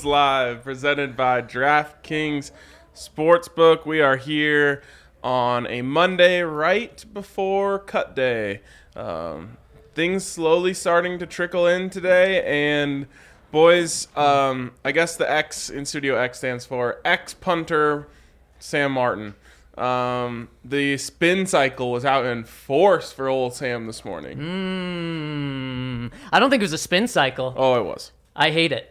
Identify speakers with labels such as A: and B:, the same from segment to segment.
A: Live, presented by DraftKings Sportsbook. We are here on a Monday right before cut day. Things slowly starting to trickle in today, and boys, I guess the X in Studio X stands for ex-punter Sam Martin. The spin cycle was out in force for old Sam this morning.
B: I don't think it was a spin cycle.
A: Oh, it was.
B: I hate it.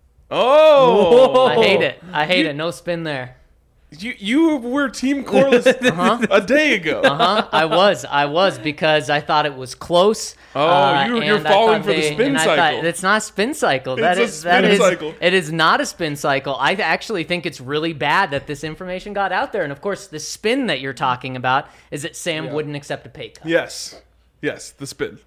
A: Oh!
B: I hate it. I hate it. No spin there.
A: You were Team Corliss a day ago.
B: I was because I thought it was close.
A: Oh, you're falling for the spin cycle.
B: It's not a spin cycle.
A: Cycle.
B: It is not a spin cycle. I actually think it's really bad that this information got out there. And of course, the spin that you're talking about is that Sam wouldn't accept a pay cut.
A: Yes, the spin.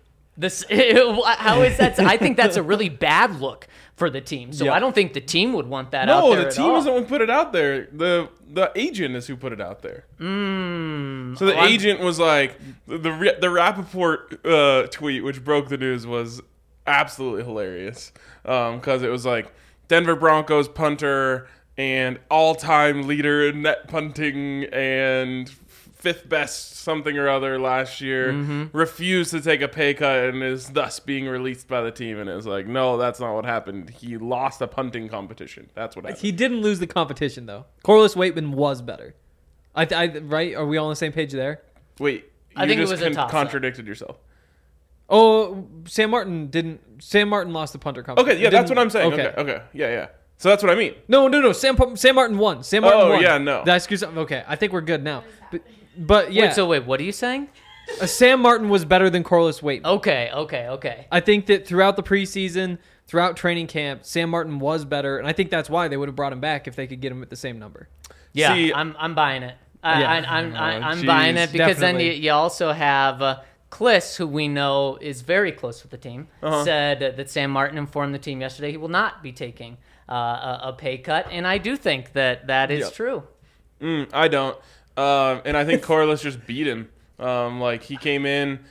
B: How is that? I think that's a really bad look for the team. So I don't think the team would want that out there.
A: No, the team isn't one who put it out there. The agent is who put it out there. So the agent was like, the Rappaport tweet, which broke the news, was absolutely hilarious. Because it was like, Denver Broncos punter and all-time leader in net punting and fifth best something or other last year, refused to take a pay cut and is thus being released by the team. And it was like, no, that's not what happened. He lost a punting competition. That's what happened.
C: He didn't lose the competition, though. Corliss Waitman was better. Right? Are we all on the same page there?
A: Wait,
B: I think it was a toss-up.
A: Contradicted yourself.
C: Oh, Sam Martin didn't. Sam Martin lost the punter competition.
A: Okay, yeah, that's what I'm saying. Okay. Yeah. So that's what I mean.
C: No. Sam Martin won. Sam Martin won.
A: Yeah, no.
C: Did I screw something? Okay, I think we're good now. But yeah.
B: Wait, what are you saying?
C: Sam Martin was better than Corliss Waitman.
B: Okay. I
C: think that throughout the preseason, throughout training camp, Sam Martin was better, and I think that's why they would have brought him back if they could get him at the same number.
B: Yeah,
A: See,
B: I'm buying it. I'm
A: geez,
B: buying it because
C: definitely.
B: then you also have Kliss, who we know is very close with the team, said that Sam Martin informed the team yesterday he will not be taking a pay cut, and I do think that is true.
A: I don't. And I think Corliss just beat him. He came in.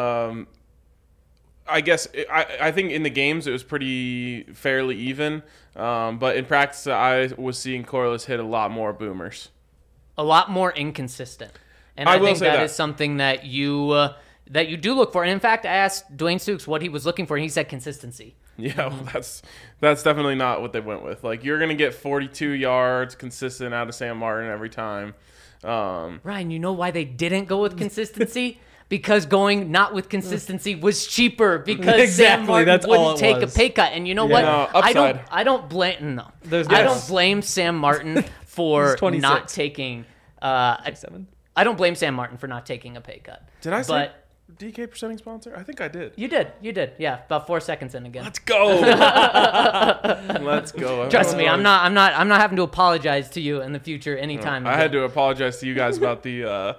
A: I guess I think in the games it was pretty fairly even. But in practice, I was seeing Corliss hit a lot more boomers.
B: A lot more inconsistent. And I think that is something that you do look for. And in fact, I asked Dwayne Stukes what he was looking for, and he said consistency.
A: Yeah, well, that's definitely not what they went with. Like, you're going to get 42 yards consistent out of Sam Martin every time.
B: Ryan, you know why they didn't go with consistency? Because going not with consistency was cheaper because Sam Martin wouldn't take a pay cut. And you know what?
A: No,
B: I don't blame Sam Martin for not taking I don't blame Sam Martin for not taking a pay cut.
A: Did I say DK presenting sponsor? I think I did.
B: You did. Yeah, about 4 seconds in again.
A: Let's go. Let's go.
B: Trust me, I'm not having to apologize to you in the future anytime.
A: I had to apologize to you guys about the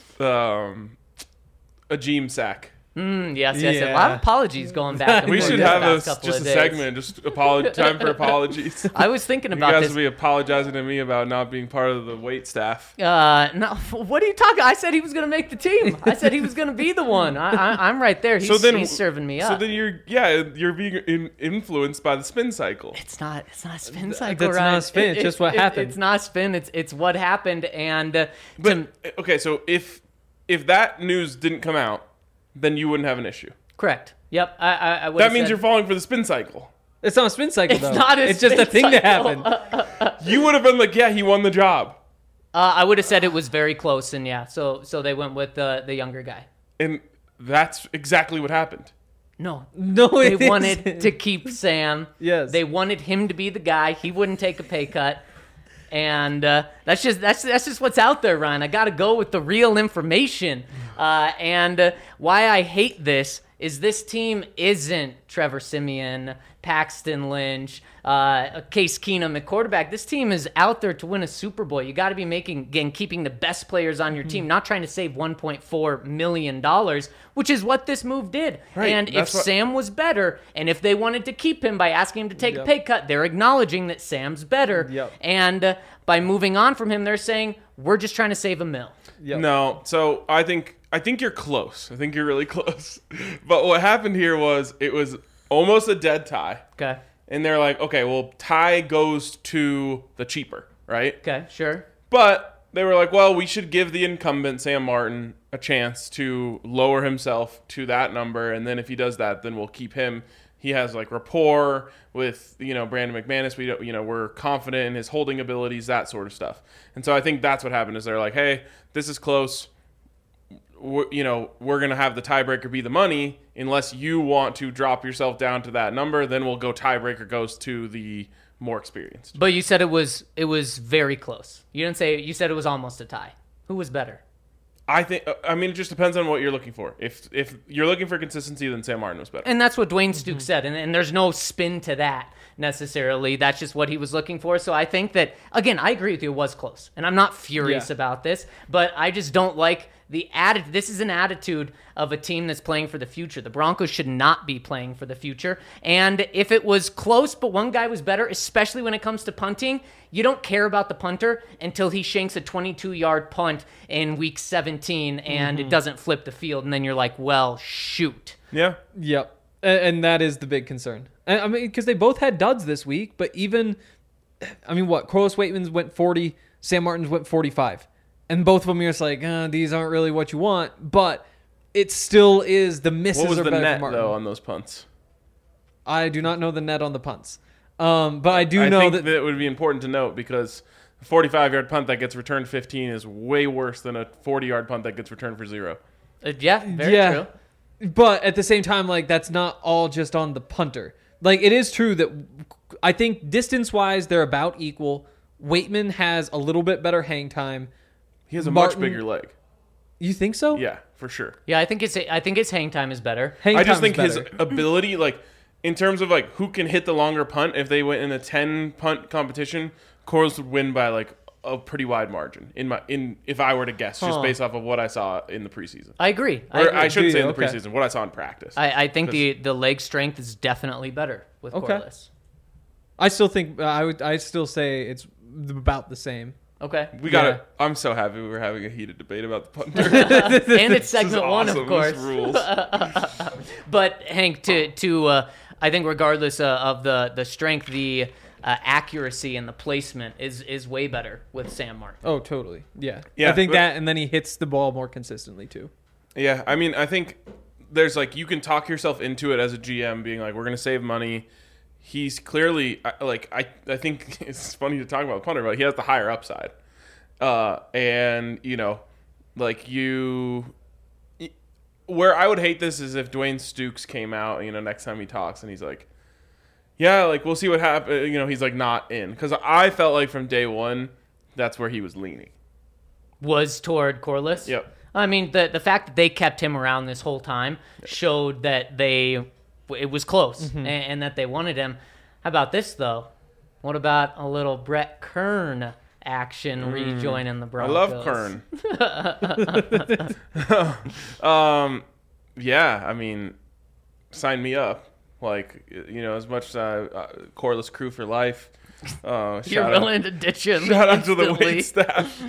A: Ajeem sack.
B: Yes. A lot of apologies going back and forth.
A: We should have just a segment, just time for apologies.
B: I was thinking about this.
A: You guys will be apologizing to me about not being part of the wait staff.
B: No, what are you talking? I said he was going to make the team. I said he was going to be the one. I'm right there. He's serving me up.
A: So then you're being influenced by the spin cycle.
B: It's not a spin cycle.
C: That's not a spin. It's just what happened.
B: It's not a spin. It's what happened. And
A: so if that news didn't come out, then you wouldn't have an issue.
B: Correct. Yep. I would.
A: That means you're falling for the spin cycle.
C: It's not a spin cycle, though.
B: It's not a
C: It's just a thing that happened.
A: You would have been like, yeah, he won the job.
B: I would have said it was very close, and yeah, so they went with the younger guy.
A: And that's exactly what happened.
B: No,
C: they
B: wanted to keep Sam.
C: Yes.
B: They wanted him to be the guy. He wouldn't take a pay cut. And that's just what's out there, Ryan. I got to go with the real information. And why I hate this is this team isn't Trevor Siemian, Paxton Lynch, Case Keenum at quarterback. This team is out there to win a Super Bowl. You got to be keeping the best players on your team, not trying to save $1.4 million, which is what this move did.
A: Right,
B: and if Sam was better, and if they wanted to keep him by asking him to take a pay cut, they're acknowledging that Sam's better.
C: Yep.
B: And by moving on from him, they're saying, we're just trying to save $1 million.
A: Yep. No, so I think you're close. I think you're really close. But what happened here was it was almost a dead tie.
B: Okay.
A: and they're like, okay, well, tie goes to the cheaper, right?
B: Okay, sure.
A: But they were like, well, we should give the incumbent, Sam Martin, a chance to lower himself to that number, and then if he does that, then we'll keep him. He has like rapport with, Brandon McManus. We're confident in his holding abilities, that sort of stuff. And so I think that's what happened is they're like, hey, this is close. We're going to have the tiebreaker be the money unless you want to drop yourself down to that number. Then we'll go tiebreaker goes to the more experienced.
B: But you said it was very close. You said it was almost a tie. Who was better?
A: It just depends on what you're looking for. If you're looking for consistency, then Sam Martin was better.
B: And that's what Dwayne Stukes said, and there's no spin to that necessarily. That's just what he was looking for. So I think that, again, I agree with you, it was close. And I'm not furious about this, but I just don't like the attitude. This is an attitude of a team that's playing for the future. The Broncos should not be playing for the future. And if it was close, but one guy was better, especially when it comes to punting, you don't care about the punter until he shanks a 22-yard punt in week 17 and it doesn't flip the field. And then you're like, well, shoot.
A: Yeah.
C: Yep. And that is the big concern. I mean, because they both had duds this week, but Corliss Waitman's went 40, Sam Martin's went 45. And both of them, you're just like, these aren't really what you want. But it still is the misses
A: What was
C: are
A: the
C: better
A: net,
C: for Martin.
A: though, on those punts?
C: I do not know the net on the punts. But I do know
A: that it would be important to note because a 45-yard punt that gets returned 15 is way worse than a 40-yard punt that gets returned for 0.
B: Very true.
C: But at the same time, like, that's not all just on the punter. Like, it is true that I think distance-wise, they're about equal. Waitman has a little bit better hang time.
A: He has a much bigger leg.
C: You think so?
A: Yeah, for sure.
B: Yeah, I think his hang time is better.
A: I just think his ability, like, in terms of, like, who can hit the longer punt, if they went in a 10-punt competition, Corliss would win by, like, a pretty wide margin, if I were to guess, just based off of what I saw in the preseason.
B: I agree.
A: I shouldn't say in the preseason, what I saw in practice.
B: I think the leg strength is definitely better with Corliss.
C: I still think, I still say it's about the same.
B: Okay.
A: I'm so happy we were having a heated debate about the punter.
B: And it's segment one,
A: awesome.
B: of course.
A: This rules.
B: But Hank, I think regardless of the strength, the accuracy and the placement is way better with Sam Martin.
C: Oh, totally. Yeah. I think that, and then he hits the ball more consistently too.
A: Yeah, I mean, I think there's like you can talk yourself into it as a GM, being like, we're going to save money. He's clearly I think it's funny to talk about the punter, but he has the higher upside, and where I would hate this is if Dwayne Stukes came out, next time he talks and he's like, yeah, like we'll see what happens. He's like not in, because I felt like from day one that's where he was leaning.
B: Was toward Corliss.
A: Yep.
B: I mean, the fact that they kept him around this whole time showed that it was close and that they wanted him. How about this, though? What about a little Brett Kern action rejoining the Broncos?
A: I love Kern. Yeah, I mean, sign me up. Like, as much as Corliss crew for life.
B: You're willing to ditch him.
A: Shout out to the wait staff.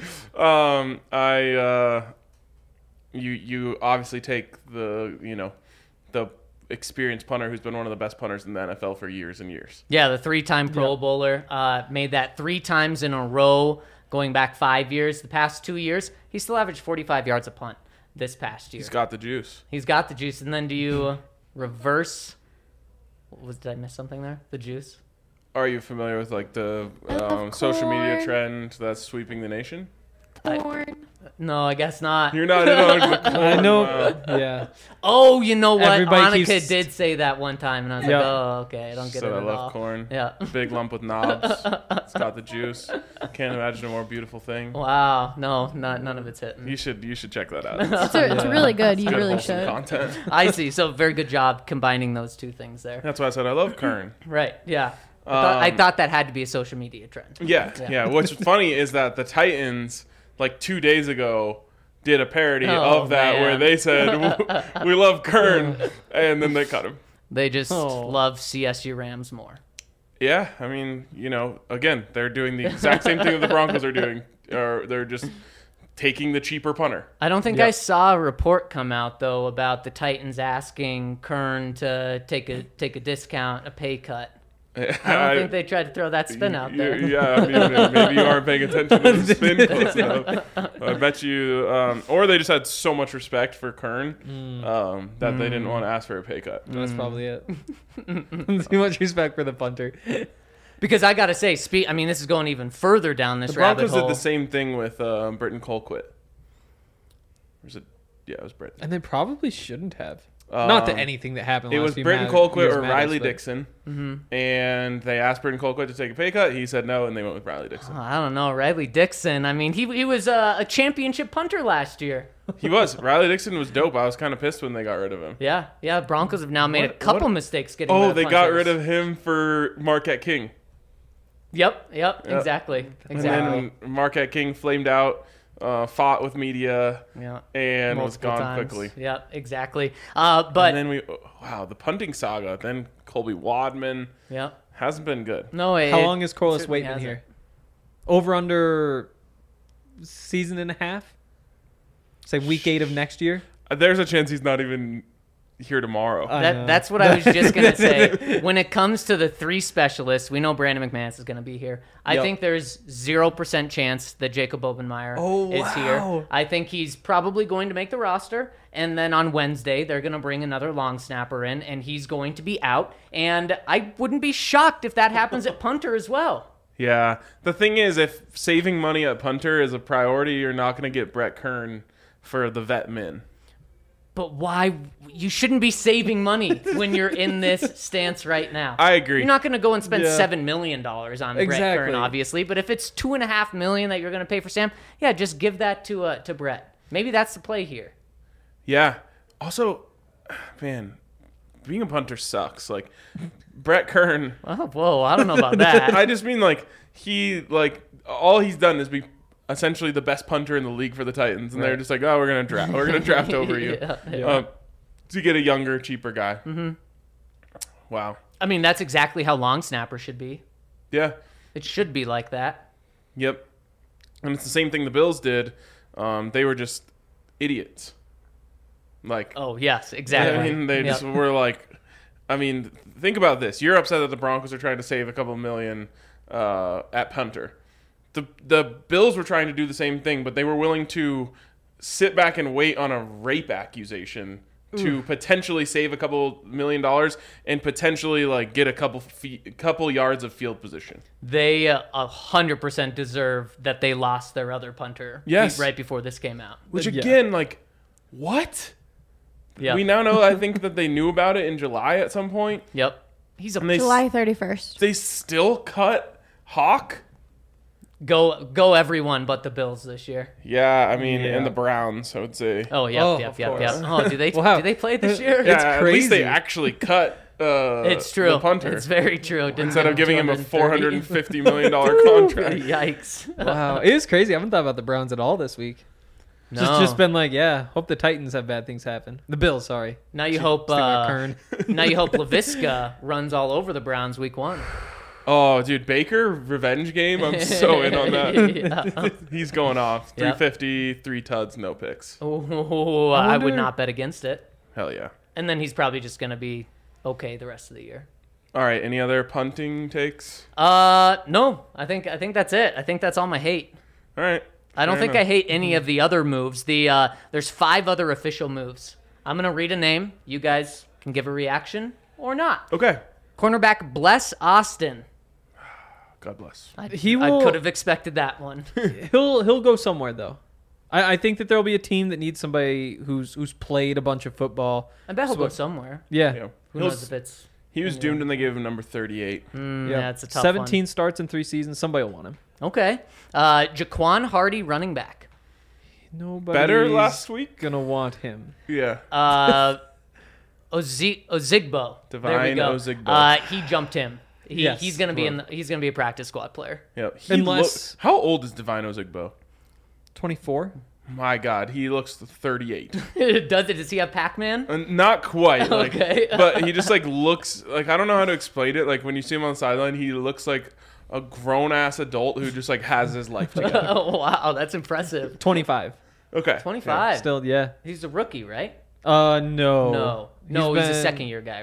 A: You obviously take the experienced punter who's been one of the best punters in the NFL for years and years.
B: Yeah, the 3-time Pro Bowler, made that 3 times in a row going back 5 years. The past 2 years, he still averaged 45 yards a punt this past year.
A: He's got the juice.
B: And then do you reverse? Did I miss something there? The juice?
A: Are you familiar with like the social media trend that's sweeping the nation?
D: Corn.
B: No, I guess not.
A: You're not in on the corn.
C: I know. Yeah.
B: Oh, you know what?
C: Everybody
B: Annika did say that one time, and I was like, oh, okay. I don't get it at all.
A: I love corn.
B: Yeah.
A: Big lump with knobs. It's got the juice. Can't imagine a more beautiful thing.
B: Wow. No, none of it's hitting.
A: You should check that out.
D: It's really good. You
A: good,
D: really
A: wholesome
D: should.
A: content.
B: I see. So very good job combining those two things there.
A: That's why I said I love Kern.
B: Right. Yeah. I thought that had to be a social media trend.
A: Yeah. What's funny is that the Titans, like 2 days ago, did a parody of that where they said, we love Kern, and then they cut him.
B: They just love CSU Rams more.
A: Yeah, I mean, again, they're doing the exact same thing that the Broncos are doing. Or they're just taking the cheaper punter.
B: I don't think I saw a report come out, though, about the Titans asking Kern to take a discount, a pay cut. I don't think they tried to throw that spin out there.
A: Yeah, I mean, maybe you aren't paying attention to the spin close enough. I bet you, or they just had so much respect for Kern that they didn't want to ask for a pay cut.
C: That's probably it. Too much respect for the punter.
B: Because I gotta say, I mean, this is going even further down this
A: The
B: rabbit
A: Broncos
B: hole.
A: did the same thing with Britton Colquitt. Was it? Yeah, it was Britton.
C: And they probably shouldn't have. Not that anything that happened.
A: It
C: last
A: was
C: few
A: Britton
C: years
A: Colquitt or
C: matters,
A: Riley
C: but-
A: Dixon, and they asked Britton Colquitt to take a pay cut. He said no, and they went with Riley Dixon.
B: I don't know, Riley Dixon. I mean, he was a championship punter last year.
A: He was. Riley Dixon was dope. I was kind of pissed when they got rid of him.
B: Yeah. Broncos have now made a
A: What-
B: couple
A: what-
B: mistakes getting.
A: Oh,
B: rid of
A: they got
B: punters.
A: rid of him for Marquette King.
B: Yep. Exactly.
A: And then Marquette King flamed out, fought with media,
B: Yeah.
A: and was
B: Multiple
A: gone
B: times.
A: quickly.
B: Yep. Exactly. But
A: And then the punting saga. Then Colby Wadman
B: yep.
A: hasn't been good.
B: No.
C: How long is Corliss
B: certainly
C: Waitman
B: hasn't.
C: here? Over under season and a half? Say week 8 of next year?
A: There's a chance he's not even here tomorrow.
C: I know.
B: That's what I was just going to say. When it comes to the 3 specialists, we know Brandon McManus is going to be here. I
C: Yep.
B: think there's 0% chance that Jacob Obenmeyer is
C: wow.
B: here. I think he's probably going to make the roster. And then on Wednesday, they're going to bring another long snapper in, and he's going to be out. And I wouldn't be shocked if that happens at punter as well.
A: Yeah. The thing is, if saving money at punter is a priority, you're not going to get Brett Kern for the vet min.
B: But why? You shouldn't be saving money when you're in this stance right now.
A: I agree.
B: You're not going to go and spend
C: Yeah.
B: $7 million on Brett
C: Exactly.
B: Kern, obviously. But if it's $2.5 million that you're going to pay for Sam, yeah, just give that to Brett. Maybe that's the play here.
A: Yeah. Also, man, being a punter sucks. Like, Brett Kern,
B: Oh, whoa, I don't know about that.
A: I just mean, all he's done is be essentially the best punter in the league for the Titans. And they're just like, oh, we're going to draft over you.
B: Yeah.
A: To get a younger, cheaper guy. Mm-hmm. Wow.
B: I mean, that's exactly how long snapper should be.
A: Yeah.
B: It should be like that.
A: Yep. And it's the same thing the Bills did. They were just idiots. Like,
B: Oh, yes, exactly.
A: I mean, they just were like, I mean, think about this. You're upset that the Broncos are trying to save a couple million at punter. The Bills were trying to do the same thing, but they were willing to sit back and wait on a rape accusation to potentially save a couple $1 million and potentially like get a couple yards of field position.
B: They 100% deserve that they lost their other punter
A: Yes.
B: right before this came out.
A: Which
C: Yeah.
A: again, like, what?
B: Yep.
A: We now know. I think that they knew about it in July at some point.
B: Yep. He's a
A: And they
D: July 31st.
A: they still cut Hawk.
B: go everyone but the Bills this year.
A: Yeah, I mean,
C: Yeah.
A: and the Browns, I would say.
B: Oh, yep,
C: Oh,
B: yep,
C: of
B: yep,
C: course.
B: yep. Oh, do they
C: Wow.
B: do they play this year?
A: Yeah, at least they
C: crazy.
A: actually cut.
B: It's true.
A: The punter
B: It's very true. Didn't
A: instead of giving him a
B: $230.
A: $450 million contract.
B: Yikes.
C: Wow. It is crazy. I haven't thought about the Browns at all this week.
B: No.
C: Just been like, yeah, hope the Titans have bad things happen. The Bills, sorry.
B: Now you hope
C: Sticking with Kern.
B: now you hope LaVisca runs all over the Browns week 1.
A: Oh, dude, Baker revenge game. I'm so in on that.
B: Yeah.
A: He's going off.
B: Yep.
A: 350, 3 tuds, no picks.
B: Oh, I would
C: wonder-
B: not bet against it.
A: Hell yeah.
B: And then he's probably just going to be okay the rest of the year.
A: All right. Any other punting takes?
B: No. I think that's it. I think that's all my hate.
A: All right.
B: I don't
A: Fair
B: think
A: enough.
B: I hate any of the other moves. There's 5 other official moves. I'm going to read a name. You guys can give a reaction or not.
A: Okay.
B: Cornerback Bless Austin.
A: God bless.
B: I
C: will-
B: could have expected that one.
C: He'll go somewhere though. I think that there'll be a team that needs somebody who's played a bunch of football.
B: I bet he'll
C: So-
B: go somewhere.
C: Yeah.
A: Yeah.
B: Who
A: He'll-
B: knows if it's...
A: He was doomed and they gave him number 38.
B: Yeah, it's a tough
C: 17 starts in 3 seasons. Somebody will want him.
B: one. Okay. Jaquan Hardy, running back.
C: Nobody
A: Better last week?
C: gonna want him.
A: Yeah.
B: Ozigbo. There we
A: Divine
B: go.
A: Ozigbo.
B: He jumped him.
C: Yes.
B: He's gonna be he's gonna be a practice squad player.
A: Yeah.
C: Unless-
A: How old is Divine Ozigbo?
C: 24.
A: My God, he looks 38.
B: Does he have Pac-Man?
A: Not quite. Like,
B: Okay.
A: but he just like looks like, I don't know how to explain it. Like when you see him on the sideline, he looks like a grown ass adult who just like has his life together.
B: Oh wow, that's impressive.
C: 25.
A: Okay.
B: 25.
C: Still, yeah.
B: He's a rookie, right?
C: No.
B: No,
C: He's
B: he's a
C: been-
B: second year guy, right?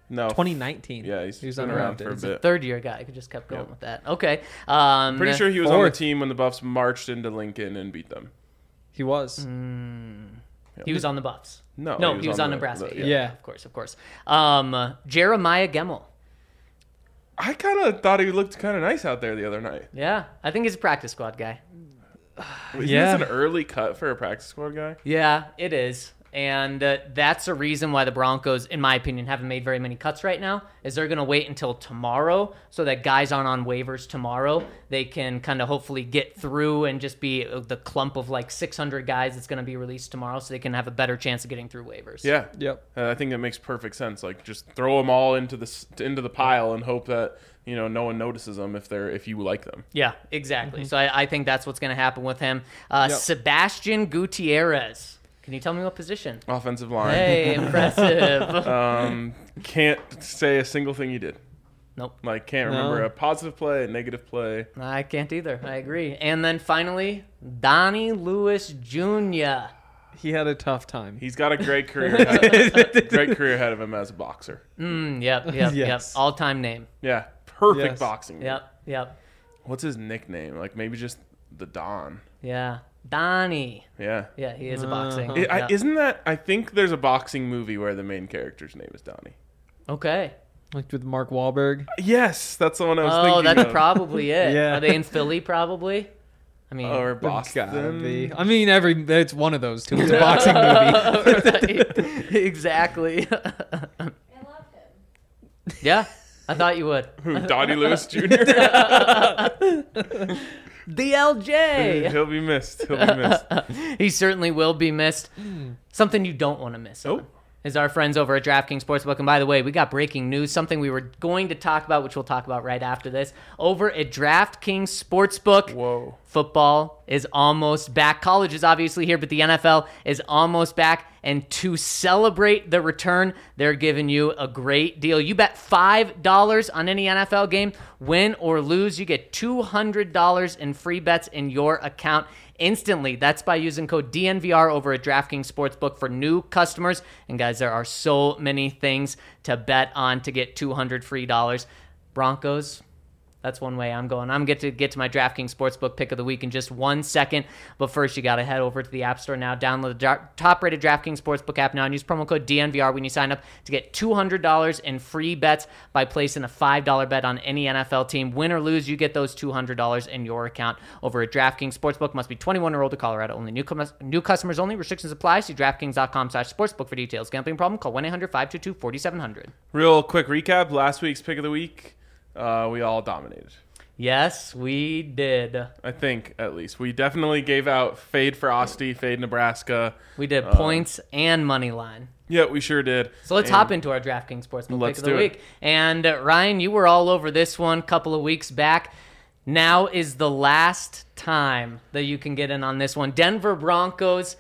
A: No.
C: 2019.
A: Yeah, he's
C: he was
A: been around for a
C: undrafted.
A: bit.
B: Third-year guy. I could just kept going
A: Yep.
B: with that. Okay.
A: Pretty sure he was on the
C: Fourth.
A: team when the Buffs marched into Lincoln and beat them.
C: He was.
B: He was on the Buffs.
A: No,
B: he was on Nebraska.
C: yeah.
B: Of course. Jeremiah Gemmel.
A: I kind of thought he looked kind of nice out there the other night.
B: Yeah, I think he's a practice squad guy.
A: Isn't
C: Yeah.
A: this an early cut for a practice squad guy?
B: Yeah, it is. And that's a reason why the Broncos, in my opinion, haven't made very many cuts right now, is they're going to wait until tomorrow so that guys aren't on waivers tomorrow. They can kind of hopefully get through and just be the clump of like 600 guys that's going to be released tomorrow so they can have a better chance of getting through waivers.
A: Yeah.
C: Yep.
A: I think that makes perfect sense. Like, just throw them all into the pile and hope that no one notices them if you like them.
B: Yeah, exactly. So I think that's what's going to happen with him.
C: Yep.
B: Sebastian Gutierrez. Can you tell me what position?
A: Offensive line.
B: Hey, impressive.
A: Can't say a single thing he did.
B: Nope.
A: Like, can't remember a positive play, a negative play.
B: I can't either. I agree. And then finally, Donnie Lewis Jr.
C: He had a tough time.
A: He's got a great career ahead of him as a boxer.
B: Yep.
C: Yes.
B: All-time name.
A: Yeah, perfect
C: Yes.
A: boxing.
B: Yep.
A: What's his nickname? Like, maybe just the Don.
B: Yeah. Donnie.
A: Yeah.
B: Yeah, he is a boxing.
A: Isn't that? I think there's a boxing movie where the main character's name is Donnie.
B: Okay.
C: Like with Mark Wahlberg.
A: Yes, that's the one I was
B: Oh,
A: thinking
B: that's
A: of.
B: probably it.
C: Yeah.
B: Are they in Philly? Probably. I mean,
A: Or
C: Gotta
A: Boston.
C: be. I mean, it's one of those two. It's a boxing movie.
B: right. Exactly.
D: I love him.
B: Yeah, I thought you would.
A: Who? Donnie Lewis Jr.
B: DLJ.
A: He'll be missed. He'll be missed.
B: He certainly will be missed. Something you don't want to miss
A: Oh.
B: on is our friends over at DraftKings Sportsbook. And by the way, we got breaking news, something we were going to talk about, which we'll talk about right after this. Over at DraftKings Sportsbook,
A: Whoa.
B: football is almost back. College is obviously here, but the NFL is almost back. And to celebrate the return, they're giving you a great deal. You bet $5 on any NFL game, win or lose, you get $200 in free bets in your account instantly. That's by using code DNVR over at DraftKings Sportsbook for new customers. And guys, there are so many things to bet on to get $200 free dollars. Broncos, that's one way I'm going. I'm going to get to my DraftKings Sportsbook pick of the week in just 1 second. But first, you got to head over to the App Store now. Download the top-rated DraftKings Sportsbook app now and use promo code DNVR when you sign up to get $200 in free bets by placing a $5 bet on any NFL team. Win or lose, you get those $200 in your account over at DraftKings Sportsbook. Must be 21 or older, Colorado only. New customers only. Restrictions apply. See DraftKings.com/sportsbook for details. Gambling problem? Call 1-800-522-4700.
A: Real quick recap. Last week's pick of the week, we all dominated.
B: Yes, we did.
A: I think, at least. We definitely gave out fade Frosty, fade Nebraska.
B: We did points and money line.
A: Yeah, we sure did.
B: So let's
A: And
B: hop into our DraftKings Sportsbook
A: Let's
B: pick of the
A: do it.
B: week. And Ryan, you were all over this one a couple of weeks back. Now is the last time that you can get in on this one. Denver Broncos,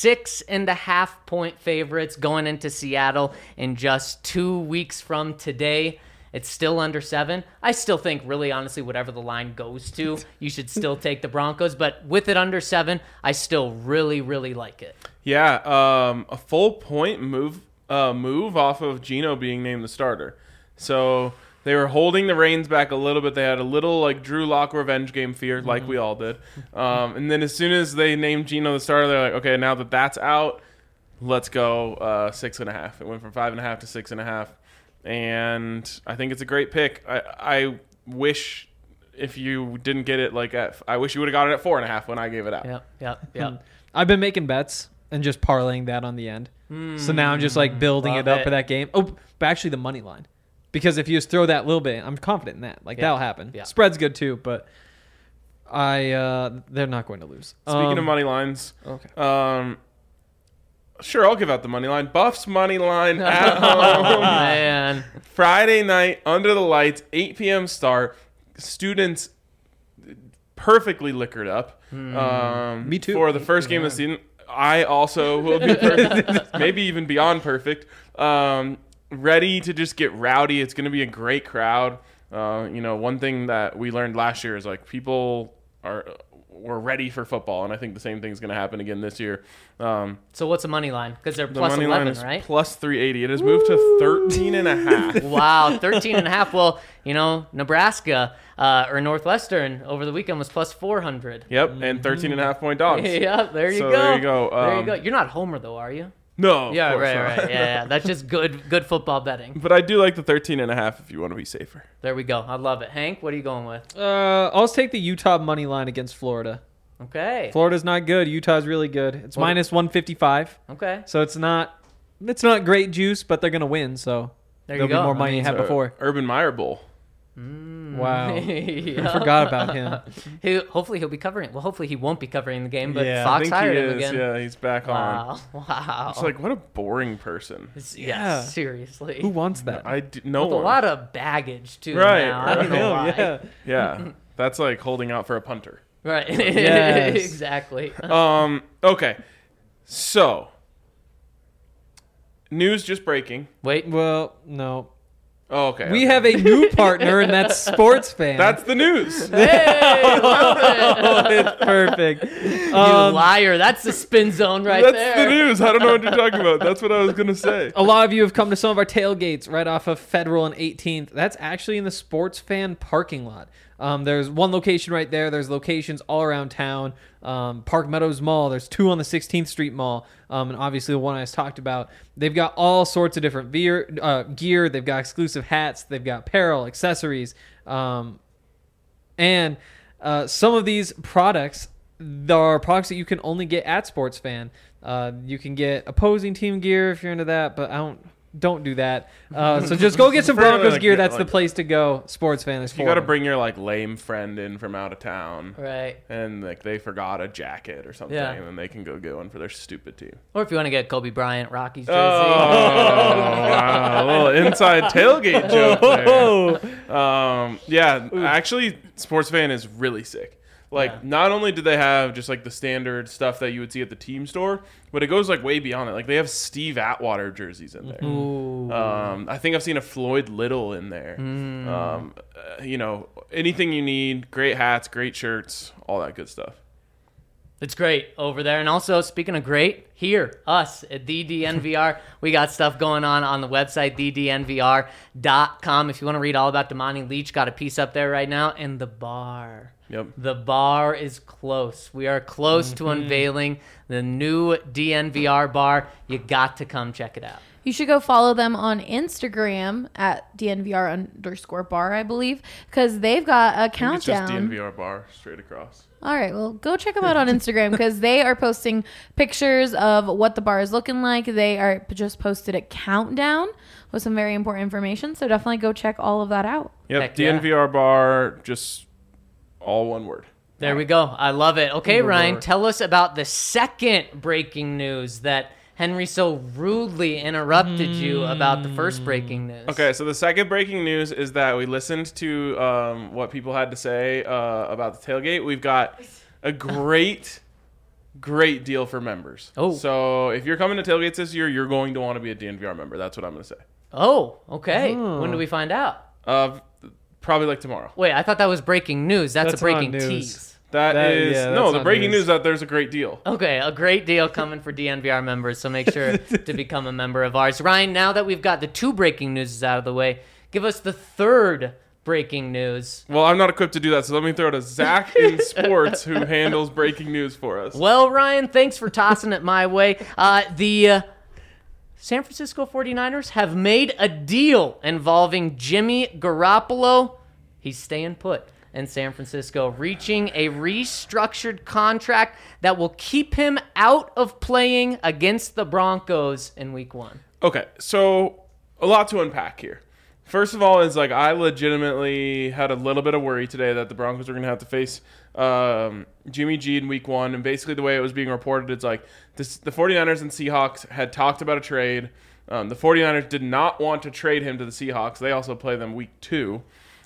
B: 6.5-point favorites going into Seattle in just 2 weeks from today. It's still under 7. I still think, really honestly, whatever the line goes to, you should still take the Broncos. But with it under 7, I still really, really like it.
A: Yeah, a full point move off of Geno being named the starter. So they were holding the reins back a little bit. They had a little like Drew Lock revenge game fear, like we all did. And then as soon as they named Geno the starter, they're like, okay, now that that's out, let's go 6.5. It went from 5.5 to 6.5. And I think it's a great pick. I wish if you didn't get it I wish you would have got it at 4.5 when I gave it out.
B: Yep.
C: I've been making bets and just parlaying that on the end. So now I'm just like building
B: Love
C: it up
B: it.
C: for that game. Oh, but actually the money line. Because if you just throw that little bit, I'm confident in that. Like that'll happen.
B: Yeah.
C: Spread's good too, but they're not going to lose.
A: Speaking of money lines,
C: okay.
A: Sure, I'll give out the money line. Buffs money line at
B: Oh,
A: home.
B: man.
A: Friday night, under the lights, 8 p.m. start. Students perfectly liquored up.
C: Me too.
A: For the first game of the season. I also will be perfect. Maybe even beyond perfect. Ready to just get rowdy. It's going to be a great crowd. One thing that we learned last year is like people are we're ready for football, and I think the same thing's going to happen again this year.
B: So what's the money line? Because they're
A: The
B: plus
A: money
B: 11,
A: line is
B: right?
A: plus 380. It has moved to 13.5.
B: Wow, 13.5. Well, Nebraska or Northwestern over the weekend was plus 400.
A: Yep, and 13.5 point dogs.
B: Yeah, there you
A: So
B: go.
A: there you go.
B: There you go. You're not Homer though, are you?
A: No. of
B: Yeah,
A: course
B: right,
A: not.
B: right. Yeah. That's just good football betting.
A: But I do like the 13.5 if you want to be safer.
B: There we go. I love it. Hank, what are you going with?
C: I'll just take the Utah money line against Florida.
B: Okay.
C: Florida's not good. Utah's really good. It's
B: What-
C: minus 155.
B: Okay.
C: So it's not great juice, but they're gonna win. So
B: There you
C: there'll be
B: go.
C: more money you had before.
A: Urban Meyer Bowl.
C: Wow,
B: Yeah.
C: I forgot about him.
B: Hopefully he'll be covering. Well, hopefully he won't be covering the game, but
C: Yeah.
A: I
B: Fox
A: think
B: hired
A: he
B: him
A: is.
B: again.
A: Yeah, he's back on.
B: Wow. Wow.
A: It's like, what a boring person.
C: Yeah.
B: Seriously.
C: Who wants that?
A: No
B: With a
A: one.
B: lot of baggage too.
A: Right,
B: Now. I don't know
C: Hell,
B: why.
C: yeah.
A: Yeah, that's like holding out for a punter.
B: Right.
C: Yes.
B: Exactly.
A: Okay, so news just breaking.
B: Wait.
C: Well, no.
A: Oh, okay.
C: We have a new partner, and that's Sports Fan.
A: That's the news.
B: Hey, love it.
C: oh, it's perfect.
B: You liar. That's the spin zone right
A: That's
B: there.
A: the news. I don't know what you're talking about. That's what I was gonna say.
C: A lot of you have come to some of our tailgates right off of Federal and 18th. That's actually in the Sports Fan parking lot. There's one location right there. There's locations all around town. Park Meadows Mall. There's two on the 16th Street Mall. And obviously the one I just talked about. They've got all sorts of different gear. They've got exclusive hats. They've got apparel, accessories. And some of these products, there are products that you can only get at Sports Fan. You can get opposing team gear if you're into that, but don't do that. So just go get some
A: Apparently,
C: Broncos
A: like,
C: gear.
A: yeah,
C: That's the
A: like-
C: place to go. Sports Fan is for
A: You got to
C: them.
A: bring your like lame friend in from out of town,
B: Right.
A: and like they forgot a jacket or something,
B: Yeah.
A: and then they can go get one for their stupid team.
B: Or if you want to get Kobe Bryant, Rockies jersey.
A: Wow, a little inside tailgate joke there. Yeah, actually, Sports Fan is really sick. Like,
B: Yeah.
A: not only do they have just like the standard stuff that you would see at the team store, but it goes like way beyond it. Like, they have Steve Atwater jerseys in there.
B: Ooh.
A: I think I've seen a Floyd Little in there. Anything you need, great hats, great shirts, all that good stuff.
B: It's great over there. And also, speaking of great, here, us at the DNVR, we got stuff going on the website, thednvr.com. If you want to read all about Damani Leach, got a piece up there right now. And the bar.
A: Yep.
B: The bar is close. We are close to unveiling the new DNVR bar. You got to come check it out.
D: You should go follow them on Instagram at DNVR_bar, I believe, because they've got a
A: I think it's just
D: countdown.
A: DNVR bar straight across.
D: All right, well, go check them out on Instagram because they are posting pictures of what the bar is looking like. They are just posted a countdown with some very important information, so definitely go check all of that out.
A: Yep,
B: Heck yeah.
A: DNVR bar, just all one word.
B: There we go. I love it. Okay, Ryan,
C: bar.
B: tell us about the second breaking news that Henry so rudely interrupted you about the first breaking news.
A: Okay, so the second breaking news is that we listened to what people had to say about the tailgate. We've got a great deal for members.
B: Oh.
A: So if you're coming to tailgates this year, you're going to want to be a DNVR member. That's what I'm going to say.
B: Oh, okay.
C: Oh.
B: When do we find out?
A: Probably like tomorrow.
B: Wait, I thought that was breaking news. That's a
C: That's
B: breaking
C: not news.
B: tease.
A: That is
C: yeah,
A: no,
C: that's
A: the
C: not
A: breaking
C: news.
A: news that there's a great deal.
B: Okay, a great deal coming for DNVR members, so make sure to become a member of ours. Ryan, now that we've got the two breaking news out of the way, give us the third breaking news.
A: Well, I'm not equipped to do that, so let me throw it to Zach in sports, who handles breaking news for us.
B: Well, Ryan, thanks for tossing it my way. The San Francisco 49ers have made a deal involving Jimmy Garoppolo. He's staying put in San Francisco, reaching a restructured contract that will keep him out of playing against the Broncos in Week 1.
A: Okay, so a lot to unpack here. First of all, is like I legitimately had a little bit of worry today that the Broncos were going to have to face Jimmy G in Week 1, and basically the way it was being reported, it's like the 49ers and Seahawks had talked about a trade. The 49ers did not want to trade him to the Seahawks. They also play them Week 2.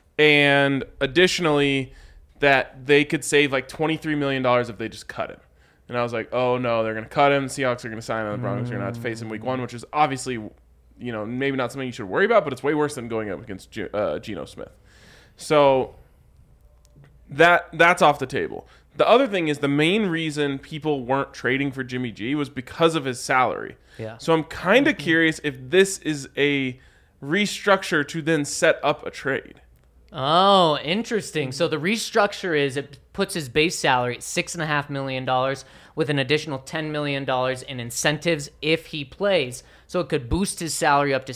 A: And additionally, that they could save like $23 million if they just cut him. And I was like, oh no, they're going to cut him. The Seahawks are going to sign him. The Broncos are going to have to face him Week 1, which is obviously, maybe not something you should worry about, but it's way worse than going up against Geno Smith. So that's off the table. the other thing is the main reason people weren't trading for Jimmy G was because of his salary.
B: Yeah.
A: So I'm kind of curious if this is a restructure to then set up a trade.
B: Oh, interesting. So the restructure is it puts his base salary at $6.5 million with an additional $10 million in incentives if he plays. So it could boost his salary up to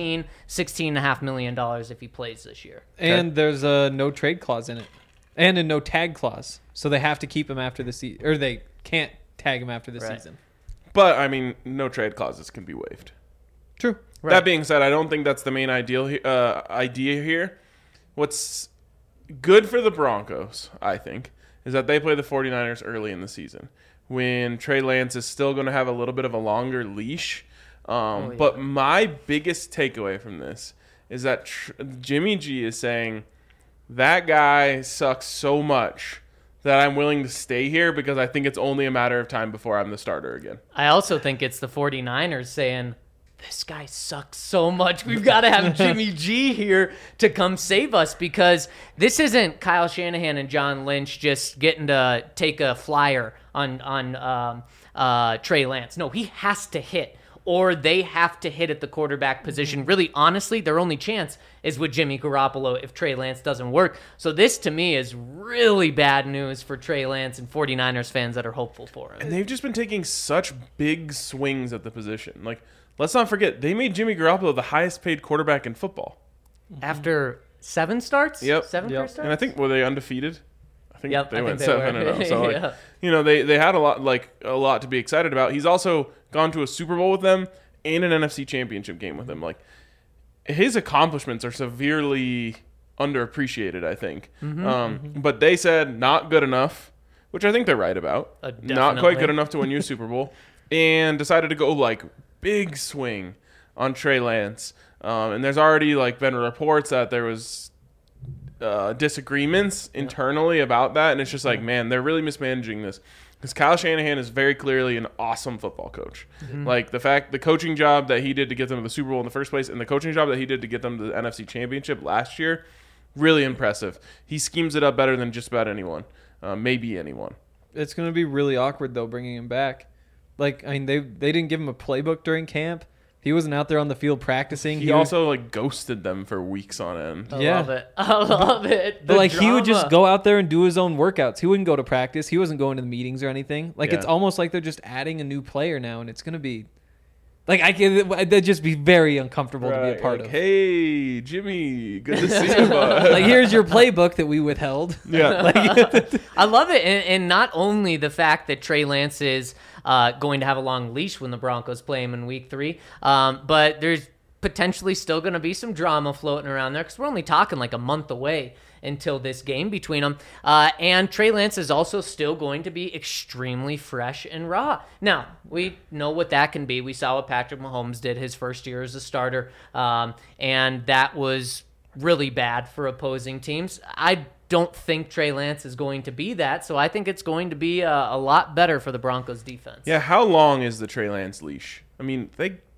B: $16.5 million if he plays this year.
C: And there's a no trade clause in it. And a no tag clause. So they have to keep him after the season. Or they can't tag him after the season.
A: But, I mean, no trade clauses can be waived.
C: True.
B: Right.
A: That being said, I don't think that's the main idea here. What's good for the Broncos, I think, is that they play the 49ers early in the season when Trey Lance is still going to have a little bit of a longer leash. But my biggest takeaway from this is that Jimmy G is saying that guy sucks so much that I'm willing to stay here because I think it's only a matter of time before I'm the starter again.
B: I also think it's the 49ers saying, this guy sucks so much. We've got to have Jimmy G here to come save us because this isn't Kyle Shanahan and John Lynch just getting to take a flyer on Trey Lance. No, he has to hit, or they have to hit at the quarterback position. Really, honestly, their only chance is with Jimmy Garoppolo if Trey Lance doesn't work. So this, to me, is really bad news for Trey Lance and 49ers fans that are hopeful for him.
A: And they've just been taking such big swings at the position. Like, let's not forget, they made Jimmy Garoppolo the highest paid quarterback in football.
B: After 7 starts?
A: Yep.
B: 7
C: Yep.
B: first starts?
A: And I think, were they undefeated? I think
B: Yep,
A: they
B: I
A: went
B: think they
A: 7-0.
B: were.
A: So, like,
B: Yeah.
A: you know, they had a lot to be excited about. He's also gone to a Super Bowl with them and an NFC Championship game with them. Like, his accomplishments are severely underappreciated, I think. But they said not good enough, which I think they're right about. Not quite
B: Definitely.
A: good enough to win you a Super Bowl, and decided to go like big swing on Trey Lance. And there's already like been reports that there was disagreements internally about that, and it's just like, man, they're really mismanaging this. Because Kyle Shanahan is very clearly an awesome football coach. Like the coaching job that he did to get them to the Super Bowl in the first place, and the coaching job that he did to get them to the NFC Championship last year, really impressive. He schemes it up better than just about anyone, maybe anyone.
C: It's going to be really awkward, though, bringing him back. Like, I mean, they didn't give him a playbook during camp. He wasn't out there on the field practicing.
A: He also like ghosted them for weeks on end.
B: I
C: Yeah.
B: love it. I love it.
C: But like he would
B: drama.
C: just go out there and do his own workouts. He wouldn't go to practice. He wasn't going to the meetings or anything. Like it's
A: Yeah.
C: almost like they're just adding a new player now, and it's gonna be like that'd just be very uncomfortable to be a part
A: like,
C: of.
A: Hey, Jimmy, good to see you, bud.
C: Like here's your playbook that we withheld.
A: Yeah.
B: I love it, and not only the fact that Trey Lance is going to have a long leash when the Broncos play him in Week 3, but there's potentially still going to be some drama floating around there because we're only talking like a month away until this game between them. And Trey Lance is also still going to be extremely fresh and raw. Now, we know what that can be. We saw what Patrick Mahomes did his first year as a starter, and that was really bad for opposing teams. I don't think Trey Lance is going to be that, so I think it's going to be a lot better for the Broncos defense.
A: Yeah, how long is the Trey Lance leash? I mean,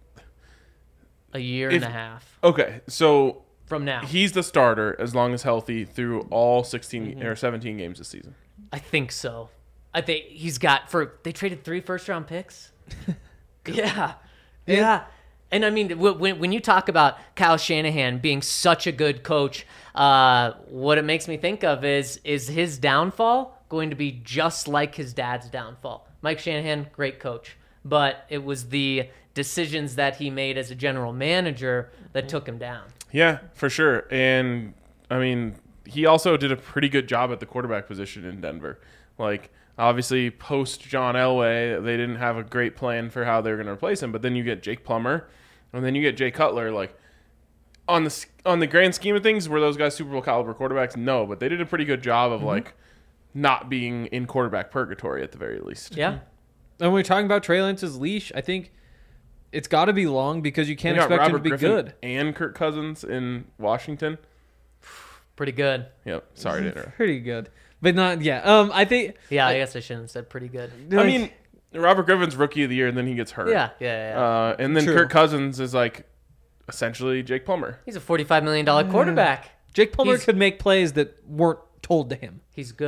B: A year and a half
A: okay, so
B: from now.
A: he's the starter as long as healthy through all 16 or 17 games this season.
B: I think so. I think he's got they traded 3 first-round picks. Yeah. Yeah. And I mean, when you talk about Kyle Shanahan being such a good coach, what it makes me think of is his downfall going to be just like his dad's downfall? Mike Shanahan, great coach, but it was the decisions that he made as a general manager that took him down.
A: Yeah, for sure. And I mean, he also did a pretty good job at the quarterback position in Denver. Like, obviously, post John Elway, they didn't have a great plan for how they were going to replace him. But then you get Jake Plummer, and then you get Jay Cutler. Like, on the grand scheme of things, were those guys Super Bowl caliber quarterbacks? No, but they did a pretty good job of like not being in quarterback purgatory at the very least.
B: Yeah.
C: And when we're talking about Trey Lance's leash, I think it's got to be long because you can't
A: They got
C: expect him
A: Robert
C: to be
A: Griffin
C: good.
A: and Kirk Cousins in Washington.
B: Pretty good.
A: Yep. Sorry to interrupt.
C: Pretty good, but not yeah. I think
B: Yeah, I guess I shouldn't have said pretty good.
A: I mean, Robert Griffin's rookie of the year, and then he gets hurt.
B: Yeah.
A: And then
C: True.
A: Kirk Cousins is like essentially Jake Plummer.
B: He's a $45 million quarterback.
C: Jake Plummer
B: He's-
C: could make plays that weren't told to him.
B: He's good.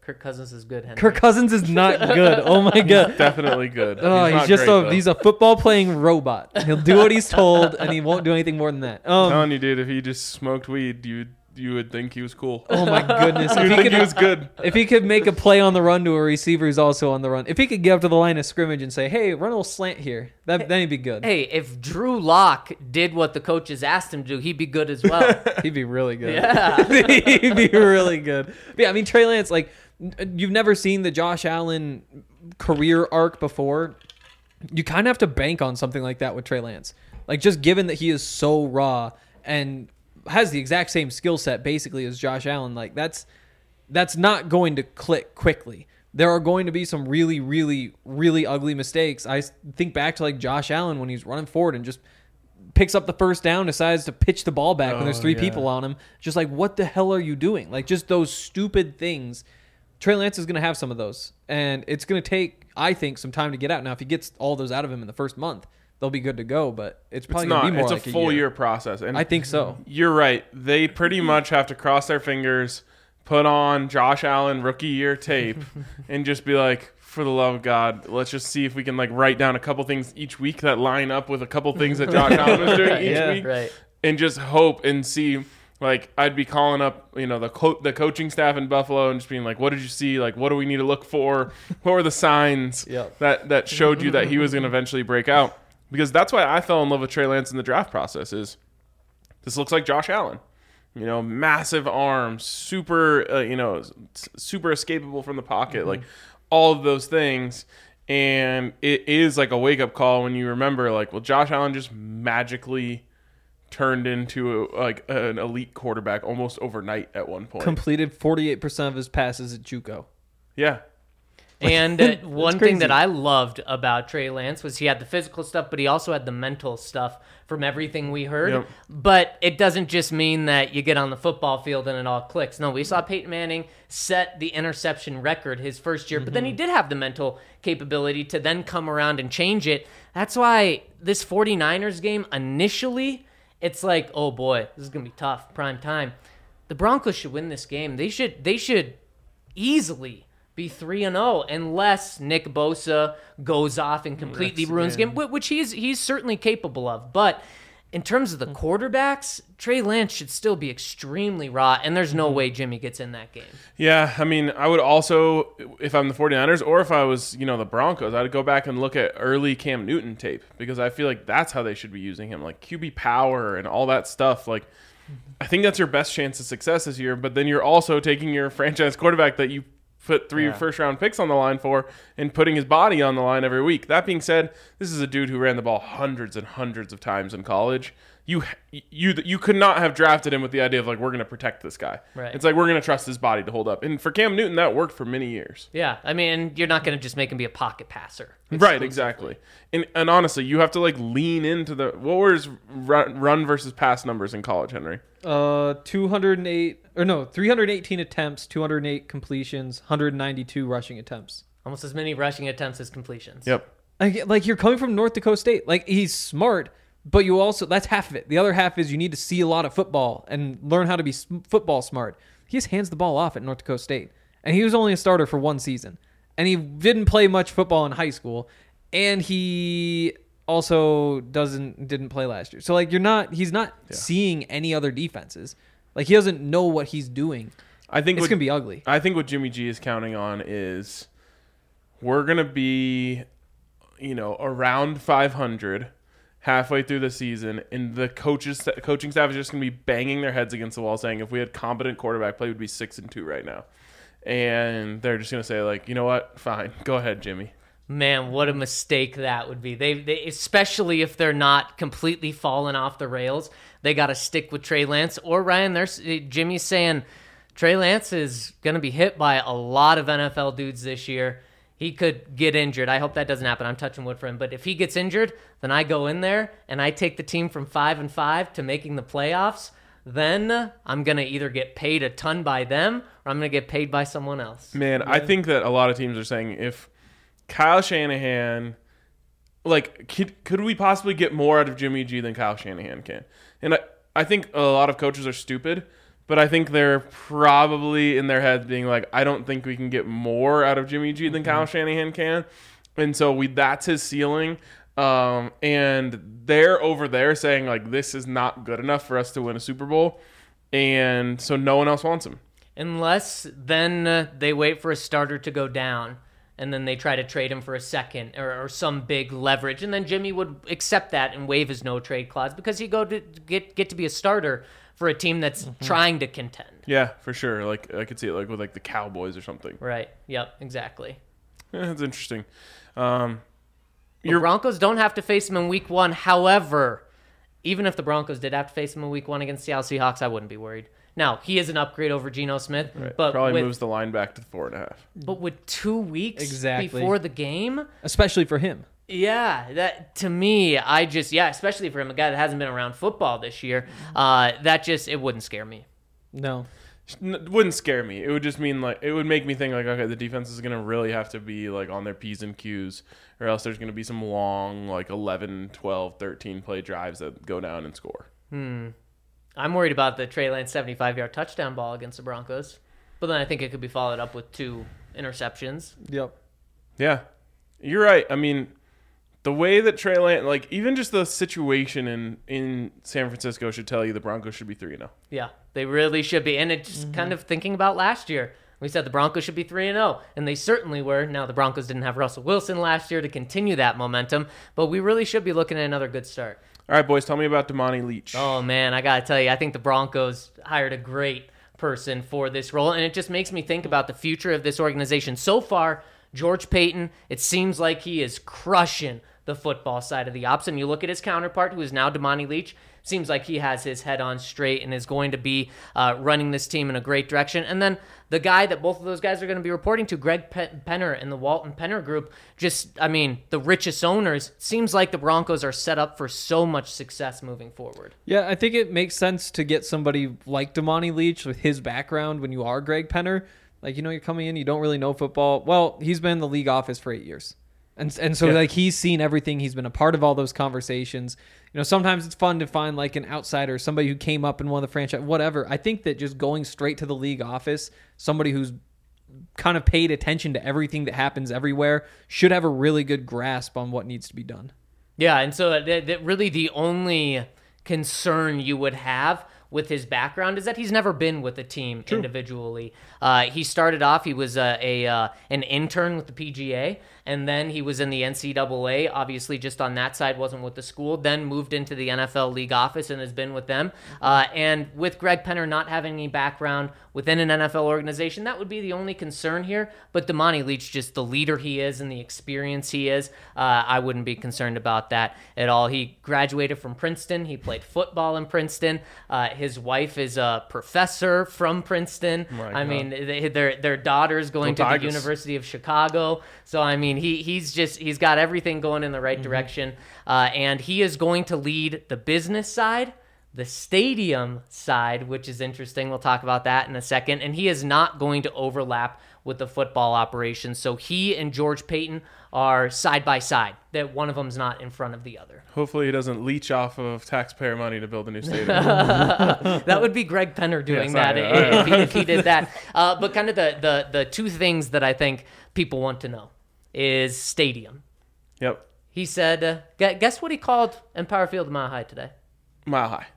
B: Kirk Cousins is good, Henry.
C: Kirk Cousins is not good. Oh my god.
A: Definitely good.
C: Oh, he's
A: not
C: just
A: great, though.
C: he's a football playing robot. He'll do what he's told, and he won't do anything more than that.
A: I'm telling you, dude, if he just smoked weed, you would think he was cool.
C: Oh my goodness!
A: You would think he was good.
C: If he could make a play on the run to a receiver who's also on the run, if he could get up to the line of scrimmage and say, "Hey, run a little slant here," then he'd be good.
B: Hey, if Drew Lock did what the coaches asked him to do, he'd be good as well.
C: He'd be really good.
B: Yeah.
C: He'd be really good. But yeah, I mean, Trey Lance, like, you've never seen the Josh Allen career arc before. You kind of have to bank on something like that with Trey Lance. Like, just given that he is so raw and has the exact same skill set basically as Josh Allen, like that's not going to click quickly. There are going to be some really, really, really ugly mistakes. I think back to like Josh Allen when he's running forward and just picks up the first down, decides to pitch the ball back when there's three people on him. Just like, what the hell are you doing? Like, just those stupid things. Trey Lance is going to have some of those, and it's going to take, I think, some time to get out. Now, if he gets all those out of him in the first month, they'll be good to go, but it's probably going to be more like
A: a full year process. And
C: I think so.
A: You're right. They pretty much have to cross their fingers, put on Josh Allen rookie year tape, and just be like, for the love of God, let's just see if we can like write down a couple things each week that line up with a couple things that Josh Allen was doing each week,
B: right.
A: And just hope and see. Like, I'd be calling up, the coaching staff in Buffalo and just being like, what did you see? Like, what do we need to look for? What were the signs that showed you that he was going to eventually break out? Because that's why I fell in love with Trey Lance in the draft process is this looks like Josh Allen. Massive arms, super, super escapable from the pocket, like all of those things. And it is like a wake-up call when you remember, like, well, Josh Allen just magically turned into an elite quarterback almost overnight at one point.
C: Completed 48% of his passes at JUCO.
A: Yeah.
B: And one thing that I loved about Trey Lance was he had the physical stuff, but he also had the mental stuff from everything we heard.
A: Yep.
B: But it doesn't just mean that you get on the football field and it all clicks. No, we saw Peyton Manning set the interception record his first year, but then he did have the mental capability to then come around and change it. That's why this 49ers game, initially, it's like, oh boy, this is going to be tough, prime time. The Broncos should win this game. They should easily be 3-0 unless Nick Bosa goes off and completely ruins the game, which he's certainly capable of. But in terms of the quarterbacks, Trey Lance should still be extremely raw, and there's no way Jimmy gets in that game.
A: Yeah, I mean, I would also, if I'm the 49ers or if I was, the Broncos, I'd go back and look at early Cam Newton tape because I feel like that's how they should be using him, like QB power and all that stuff. Like, I think that's your best chance of success this year, but then you're also taking your franchise quarterback that you put 3 first-round picks on the line for and putting his body on the line every week. That being said, this is a dude who ran the ball hundreds and hundreds of times in college. You could not have drafted him with the idea of, like, we're going to protect this guy.
B: Right.
A: It's like we're going to trust his body to hold up. And for Cam Newton, that worked for many years.
B: Yeah, I mean, you're not going to just make him be a pocket passer.
A: Right, exactly. And honestly, you have to, like, lean into the – what were his run versus pass numbers in college, Henry?
C: 318 attempts, 208 completions, 192 rushing attempts.
B: Almost as many rushing attempts as completions.
A: Yep.
C: Like, you're coming from North Dakota State. Like, he's smart, but you also, that's half of it. The other half is you need to see a lot of football and learn how to be football smart. He just hands the ball off at North Dakota State. And he was only a starter for one season. And he didn't play much football in high school. And he also didn't play last year. So, like, he's not seeing any other defenses. Like, he doesn't know what he's doing.
A: I think
C: it's going to be ugly.
A: I think what Jimmy G is counting on is we're going to be, around 500 halfway through the season, and the coaching staff is just going to be banging their heads against the wall saying if we had competent quarterback play, we'd be 6-2 right now. And they're just going to say, like, you know what? Fine. Go ahead, Jimmy.
B: Man, what a mistake that would be. They especially if they're not completely falling off the rails, they got to stick with Trey Lance. Or Ryan, Jimmy's saying Trey Lance is going to be hit by a lot of NFL dudes this year. He could get injured. I hope that doesn't happen. I'm touching wood for him. But if he gets injured, then I go in there and I take the team from 5-5 to making the playoffs. Then I'm going to either get paid a ton by them or I'm going to get paid by someone else.
A: Man, I think that a lot of teams are saying if Kyle Shanahan, like, could we possibly get more out of Jimmy G than Kyle Shanahan can? And I think a lot of coaches are stupid, But I think they're probably in their heads being like, I don't think we can get more out of Jimmy G than Kyle Shanahan can. And so that's his ceiling. And they're over there saying, like, this is not good enough for us to win a Super Bowl. And so no one else wants him.
B: Unless then they wait for a starter to go down, and then they try to trade him for a second or some big leverage. And then Jimmy would accept that and waive his no-trade clause because he go to get to be a starter for a team that's trying to contend.
A: Yeah, for sure. Like, I could see it like with like the Cowboys or something.
B: Right. Yep, exactly.
A: Yeah, that's interesting.
B: The Broncos don't have to face him in week 1. However, even if the Broncos did have to face him in week 1 against the Seattle Seahawks, I wouldn't be worried. Now, he is an upgrade over Geno Smith.
A: Right.
B: But
A: probably moves the line back to 4.5.
B: But with 2 weeks
C: Exactly.
B: before the game,
C: Especially for him.
B: yeah, that to me, especially for him, a guy that hasn't been around football this year, it wouldn't scare me.
C: No.
A: It wouldn't scare me. It would just mean like it would make me think like, okay, the defense is gonna really have to be like on their P's and Q's, or else there's gonna be some long like 11, 12, 13 play drives that go down and score.
B: I'm worried about the Trey Lance 75-yard touchdown ball against the Broncos, but then I think it could be followed up with 2 interceptions.
C: Yep.
A: Yeah, you're right. I mean, the way that Trey Lance, like even just the situation in San Francisco should tell you the Broncos should be 3-0.
B: Yeah, they really should be. And it's kind of thinking about last year. We said the Broncos should be 3-0, and they certainly were. Now, the Broncos didn't have Russell Wilson last year to continue that momentum, but we really should be looking at another good start.
A: All right, boys, tell me about Damani Leach.
B: Oh, man, I got to tell you, I think the Broncos hired a great person for this role, and it just makes me think about the future of this organization. So far, George Paton, it seems like he is crushing the football side of the ops, and you look at his counterpart, who is now Damani Leach, seems like he has his head on straight and is going to be running this team in a great direction. And then the guy that both of those guys are going to be reporting to, Greg Penner and the Walton Penner Group, the richest owners, seems like the Broncos are set up for so much success moving forward.
C: Yeah, I think it makes sense to get somebody like Damani Leach with his background when you are Greg Penner. Like, you're coming in, you don't really know football. Well, he's been in the league office for 8 years. And so, like, he's seen everything. He's been a part of all those conversations. Sometimes it's fun to find, like, an outsider, somebody who came up in one of the franchise, whatever. I think that just going straight to the league office, somebody who's kind of paid attention to everything that happens everywhere, should have a really good grasp on what needs to be done.
B: Yeah, and so that really the only concern you would have with his background is that he's never been with a team individually. He started off, he was an intern with the PGA, and then he was in the NCAA, obviously just on that side, wasn't with the school, then moved into the NFL league office and has been with them. And with Greg Penner not having any background within an NFL organization, that would be the only concern here. But Damani Leach, just the leader he is and the experience he is, I wouldn't be concerned about that at all. He graduated from Princeton. He played football in Princeton. His wife is a professor from Princeton. I mean, their daughter's going to the University of Chicago. So, I mean, he's got everything going in the right direction. And he is going to lead the business side, the stadium side, which is interesting. We'll talk about that in a second. And he is not going to overlap with the football operation. So he and George Paton are side by side, that one of them's not in front of the other.
A: Hopefully he doesn't leech off of taxpayer money to build a new stadium.
B: That would be Greg Penner doing if he did that. But kind of the 2 things that I think people want to know is stadium.
A: Yep.
B: He said, guess what he called Empower Field Mile High today?
A: Mile High.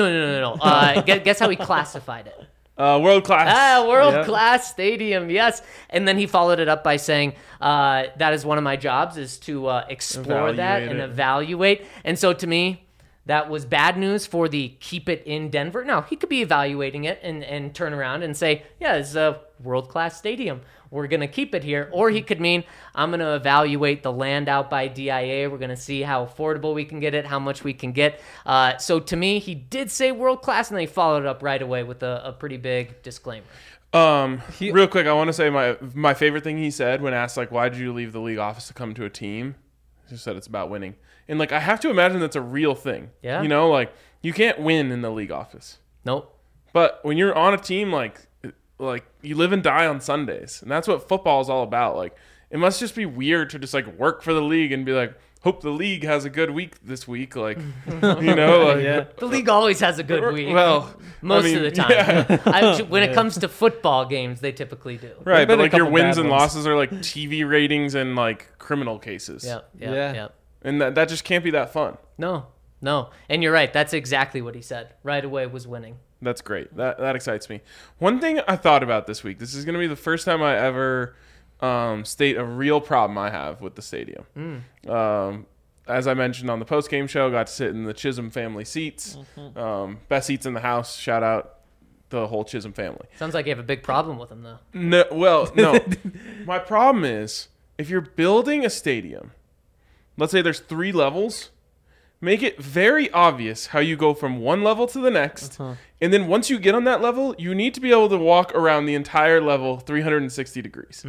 B: No. Guess how he classified it.
A: World class.
B: World class stadium, yes. And then he followed it up by saying, that is one of my jobs, is to explore that and evaluate. And so to me, that was bad news for the keep it in Denver. Now, he could be evaluating it and turn around and say, yeah, it's a world-class stadium. We're going to keep it here. Or he could mean, I'm going to evaluate the land out by DIA. We're going to see how affordable we can get it, how much we can get. So to me, he did say world-class, and they followed it up right away with a pretty big disclaimer.
A: Real quick, I want to say my favorite thing he said when asked, like, why did you leave the league office to come to a team? He said it's about winning. And, like, I have to imagine that's a real thing.
B: Yeah.
A: Like, you can't win in the league office.
B: Nope.
A: But when you're on a team, like you live and die on Sundays. And that's what football is all about. Like, it must just be weird to just, like, work for the league and be like, hope the league has a good week this week. Like, you know, like,
C: Yeah.
B: The league always has a good week.
A: well,
B: most
A: I mean,
B: of the time.
A: yeah.
B: When it comes to football games, they typically do.
A: Right,
C: been
A: but
C: a
A: like your
C: couple
A: wins
C: bad
A: and
C: ones.
A: losses are like TV ratings and like criminal cases.
B: Yep.
C: Yeah.
A: And that just can't be that fun.
B: No. And you're right. That's exactly what he said. Right away was winning.
A: That's great. That excites me. One thing I thought about this week. This is going to be the first time I ever state a real problem I have with the stadium. As I mentioned on the post-game show, got to sit in the Chisholm family seats. Best seats in the house. Shout out the whole Chisholm family.
B: Sounds like you have a big problem with him, though.
A: No. My problem is if you're building a stadium, let's say there's 3 levels, make it very obvious how you go from one level to the next. And then once you get on that level, you need to be able to walk around the entire level 360 degrees.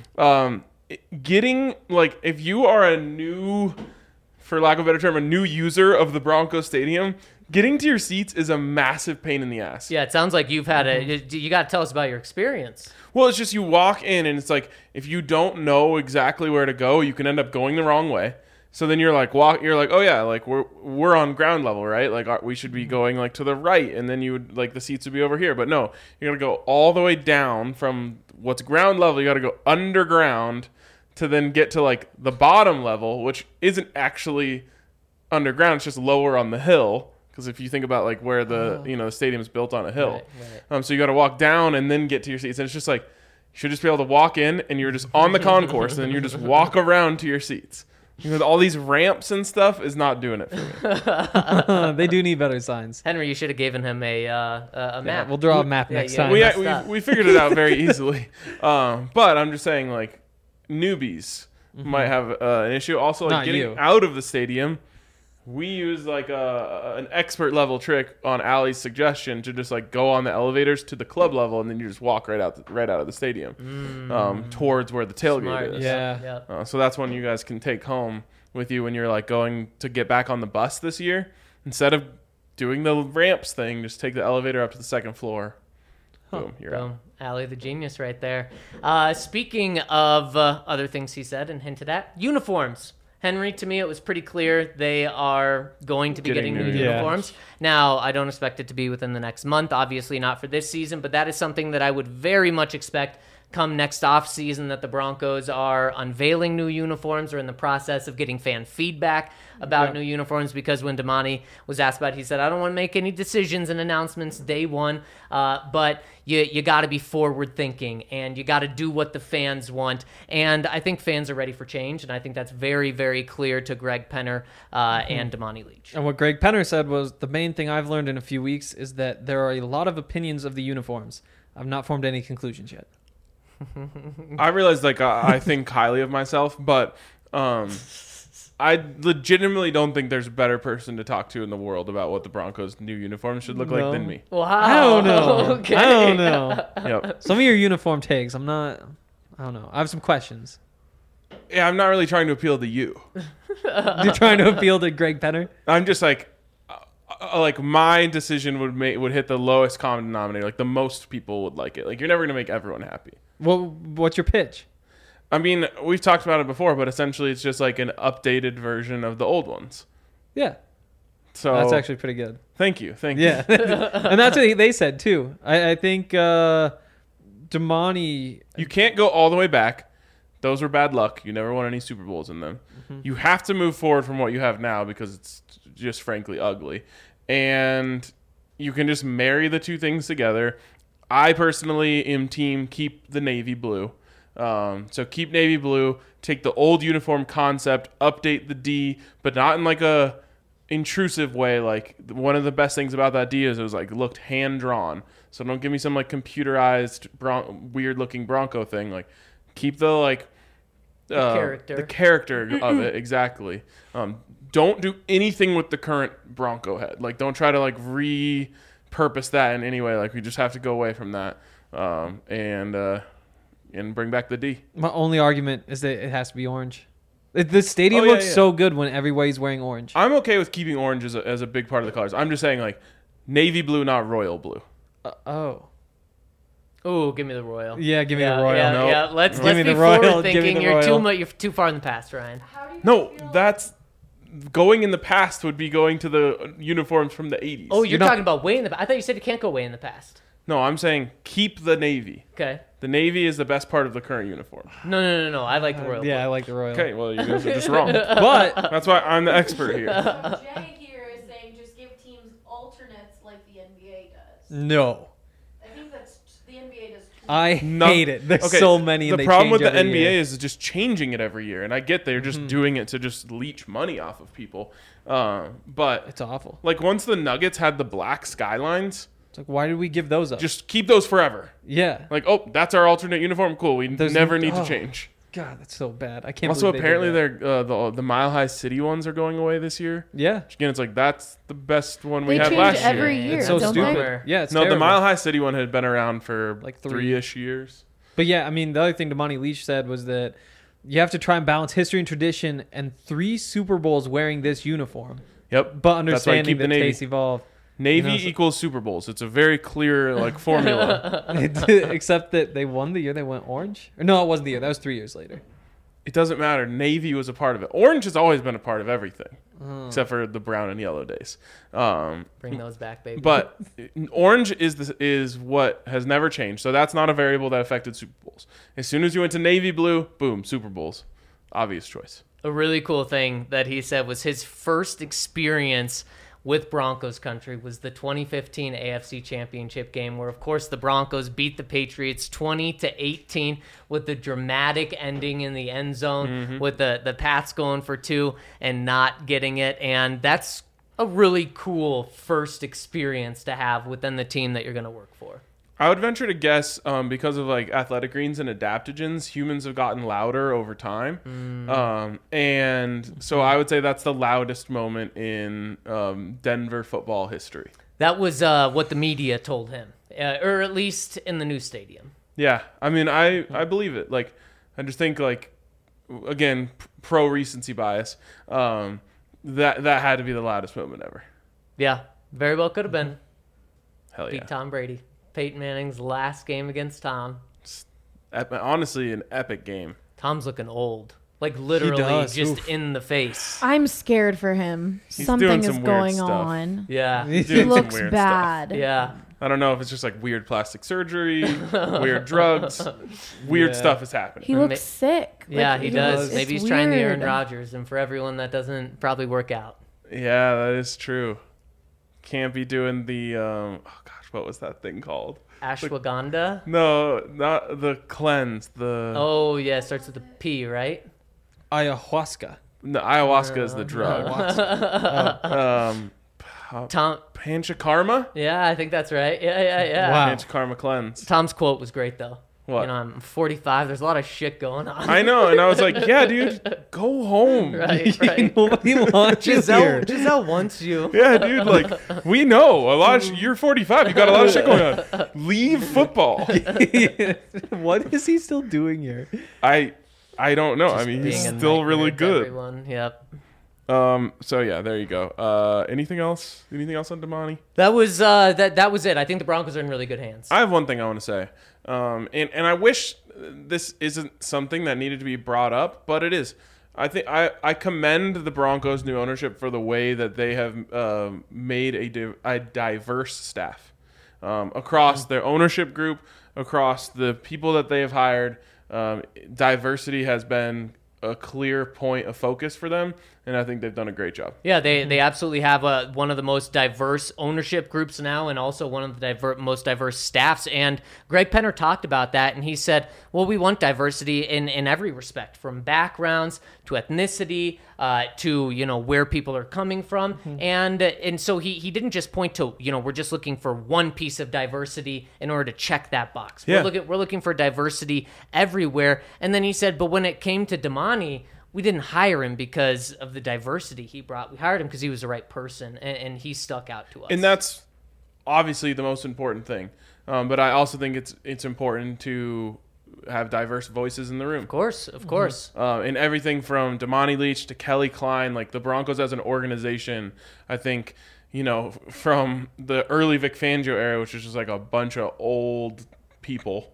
A: Getting, like, if you are a new, for lack of a better term, a new user of the Broncos Stadium, getting to your seats is a massive pain in the ass.
B: Yeah, it sounds like you've had you got to tell us about your experience.
A: Well, it's just you walk in and it's like if you don't know exactly where to go, you can end up going the wrong way. So then you're like oh yeah, like we're on ground level, right? Like we should be going like to the right, and then you would like the seats would be over here. But no, you got to go all the way down from what's ground level. You got to go underground to then get to like the bottom level, which isn't actually underground. It's just lower on the hill. Because if you think about like where the the stadium is built on a hill,
B: Right.
A: So you got to walk down and then get to your seats, and it's just like you should just be able to walk in and you're just on the concourse, and then you just walk around to your seats. With all these ramps and stuff is not doing it for me.
C: They do need better signs.
B: Henry, you should have given him a map.
C: Yeah, we'll draw a map next time.
A: We figured it out very easily, but I'm just saying like newbies might have an issue. Also, like
C: Not
A: getting
C: you.
A: out of the stadium. We use like an expert level trick on Allie's suggestion to just like go on the elevators to the club level, and then you just walk right out of the stadium towards where the tailgate
B: Smart.
A: is.
C: Yeah.
A: So that's one you guys can take home with you when you're like going to get back on the bus this year. Instead of doing the ramps thing, just take the elevator up to the second floor. Boom, you're out.
B: Boom. Allie the genius right there. Speaking of other things he said and hinted at, uniforms. Henry, to me, it was pretty clear they are going to be getting new uniforms. Now, I don't expect it to be within the next month, obviously not for this season, but that is something that I would very much expect come next off season, that the Broncos are unveiling new uniforms or in the process of getting fan feedback about new uniforms, because when Damani was asked about it, he said, I don't want to make any decisions and announcements day one, but you got to be forward thinking and you got to do what the fans want. And I think fans are ready for change, and I think that's very, very clear to Greg Penner and Damani Leach.
C: And what Greg Penner said was, the main thing I've learned in a few weeks is that there are a lot of opinions of the uniforms. I've not formed any conclusions yet.
A: I realized like I think highly of myself, but I legitimately don't think there's a better person to talk to in the world about what the Broncos' new uniforms should look like than me.
B: Wow.
C: I don't know.
B: Okay.
C: I don't know.
A: Yep.
C: Some of your uniform takes, I don't know. I have some questions.
A: Yeah, I'm not really trying to appeal to you.
C: You're trying to appeal to Greg Penner?
A: I'm just like my decision would hit the lowest common denominator. Like the most people would like it. Like you're never gonna make everyone happy.
C: Well, what's your pitch?
A: I mean, we've talked about it before, but essentially it's just like an updated version of the old ones.
C: Yeah,
A: So
C: that's actually pretty good.
A: Thank you.
C: Yeah, and that's what they said too. I think Damani.
A: You can't go all the way back. Those were bad luck. You never won any Super Bowls in them. You have to move forward from what you have now because it's just frankly ugly. And you can just marry the two things together. I personally am team keep the navy blue. So keep navy blue, take the old uniform concept, update the D, but not in like a intrusive way. Like one of the best things about that D is it was like looked hand drawn. So don't give me some like computerized weird looking Bronco thing. Like keep the like the character of it exactly. Don't do anything with the current Bronco head. Like don't try to like repurpose that in any way. Like we just have to go away from that and bring back the D.
C: My only argument is that it has to be orange. The stadium looks so good when everybody's wearing orange.
A: I'm okay with keeping orange as a big part of the colors. I'm just saying like navy blue, not royal blue.
B: Ooh, give me the royal.
C: Yeah, give me the royal.
B: Yeah,
A: Nope.
B: yeah. Let's
C: Give me
B: be
C: the royal.
B: forward
C: Give me
B: thinking.
C: the royal.
B: You're too far in the past, Ryan.
A: No, that's going in the past would be going to the uniforms from the 80s.
B: Oh, you're talking about way in the. I thought you said you can't go way in the past.
A: No, I'm saying keep the navy.
B: Okay.
A: The navy is the best part of the current uniform.
B: No. I like the royal.
C: Yeah, I
B: blue.
C: like the royal.
A: Okay, well, you guys are just wrong.
C: But
A: That's why I'm the expert here.
D: Jay here is saying just give teams alternates like the NBA does.
C: no,
D: I think that's the NBA does.
C: I hate it. There's
A: Okay,
C: so many.
A: The
C: And they
A: problem with
C: change
A: the
C: every
A: NBA
C: year.
A: is just changing it every year, and I get they're just doing it to just leech money off of people. But
C: It's awful.
A: like once the Nuggets had the black skylines,
C: It's like, why did we give those up?
A: just keep those forever.
C: Yeah.
A: Like, oh, that's our alternate uniform. Cool. We
C: There's
A: never need
C: oh.
A: to change.
C: God, that's so bad. I can't.
A: Also,
C: believe
A: apparently,
C: they did that.
A: they're the Mile High City ones are going away this year.
C: Yeah.
A: Which, again, it's like that's the best one we
D: They
A: had
D: change
A: last
D: every
A: year.
D: year,
C: It's so
D: don't
C: stupid.
D: they?
C: Yeah, it's
A: No, the
C: terrible.
A: Mile High City one had been around for
C: Like
A: like
C: three.
A: 3-ish years.
C: But yeah, I mean, the other thing Damani Leach said was that you have to try and balance history and tradition, and 3 Super Bowls wearing this uniform,
A: Yep.
C: but
A: That's why I
C: understanding
A: keep the
C: that
A: Navy.
C: tastes evolve.
A: Navy
C: You know, so-
A: equals Super Bowls. It's a very clear like formula.
C: Except that they won the year they went orange. Or no, it wasn't the year. That was 3 years later.
A: It doesn't matter. Navy was a part of it. Orange has always been a part of everything, except for the brown and yellow days.
B: Bring those back, baby.
A: But orange is what has never changed. So that's not a variable that affected Super Bowls. As soon as you went to navy blue, boom, Super Bowls. Obvious choice.
B: a really cool thing that he said was his first experience with Broncos country was the 2015 AFC Championship game, where of course the Broncos beat the Patriots 20-18 with the dramatic ending in the end zone, with the Pats going for 2 and not getting it. And that's a really cool first experience to have within the team that you're going to work for.
A: I would venture to guess, because of like athletic greens and adaptogens, humans have gotten louder over time, and so I would say that's the loudest moment in Denver football history.
B: That was what the media told him, or at least in the new stadium.
A: Yeah, I mean, I believe it. Like, I just think like, again, pro recency bias. That had to be the loudest moment ever.
B: Yeah, very well could have been.
A: Hell yeah!
B: Beat Tom Brady. Peyton Manning's last game against Tom.
A: Honestly, an epic game.
B: Tom's looking old. Like literally
C: does.
B: just
C: Oof.
B: in the face.
D: I'm scared for him.
A: He's
D: Something
A: doing
D: is
A: some weird
D: going
A: stuff.
D: on.
B: Yeah.
A: Doing
D: He
A: some
D: looks
A: weird
D: bad.
B: Yeah.
A: I don't know if it's just like weird plastic surgery, weird drugs, weird
C: Yeah.
A: stuff is happening.
D: He looks sick.
B: Yeah,
D: Like,
B: he
C: does.
B: does. Maybe
D: it's
B: he's trying the
D: weird.
B: Aaron Rodgers, and for everyone that doesn't probably work out.
A: Yeah, that is true. Can't be doing the oh gosh, what was that thing called?
B: Ashwagandha.
A: No, not the cleanse. The
B: Oh yeah, starts with a P, right?
C: Ayahuasca.
A: no, ayahuasca is the drug.
B: Tom.
A: Panchakarma.
B: Yeah, I think that's right. Yeah.
C: Wow.
A: Panchakarma cleanse.
B: Tom's quote was great though.
A: What?
B: You know, I'm 45. There's a lot of shit going on.
A: I know, and I was like, yeah, dude, go home.
B: right.
C: Nobody watches here.
B: Giselle wants you.
A: Yeah, dude, like we know a lot. You're 45. You got a lot of shit going on. Leave football.
C: What is he still doing here?
A: I don't know. I mean, he's
B: Being a
A: still
B: nightmare
A: really
B: to
A: good.
B: Everyone. Yep.
A: So yeah, there you go. Anything else? Anything else on Damani?
B: That was that was it. I think the Broncos are in really good hands.
A: I have one thing I want to say. And I wish this isn't something that needed to be brought up, but it is. I think I commend the Broncos' new ownership for the way that they have made a diverse staff across their ownership group, across the people that they have hired. Diversity has been a clear point of focus for them, and I think they've done a great job.
B: Yeah, they absolutely have one of the most diverse ownership groups now, and also one of the most diverse staffs. And Greg Penner talked about that, and he said, well, we want diversity in every respect, from backgrounds to ethnicity to, you know, where people are coming from. And so he didn't just point to, you know, we're just looking for one piece of diversity in order to check that box.
A: Yeah.
B: We're looking for diversity everywhere. And then he said, but when it came to Damani, we didn't hire him because of the diversity he brought. We hired him because he was the right person, and he stuck out to us.
A: And that's obviously the most important thing. But I also think it's important to have diverse voices in the room.
B: Of course.
A: In everything from Damani Leach to Kelly Klein, like the Broncos as an organization, I think, you know, from the early Vic Fangio era, which was just like a bunch of old people,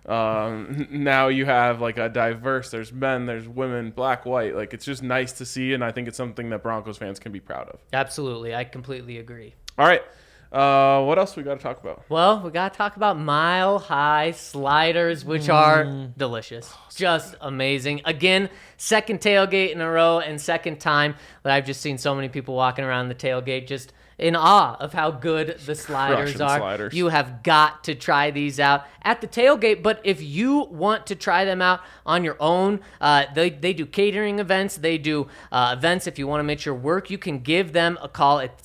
A: Now you have like a diverse. There's men, there's women, black, white. Like it's just nice to see, and I think it's something that Broncos fans can be proud of.
B: Absolutely, I completely agree.
A: All right, what else we got to talk about?
B: Well, we got to talk about Mile High sliders, which are delicious. Just amazing. Again, second tailgate in a row and second time that I've just seen so many people walking around the tailgate just in awe of how good the sliders
A: Crushing
B: are.
A: sliders.
B: You have got to try these out at the tailgate, but if you want to try them out on your own, they do catering events. They do events if you want to make your work. You can give them a call at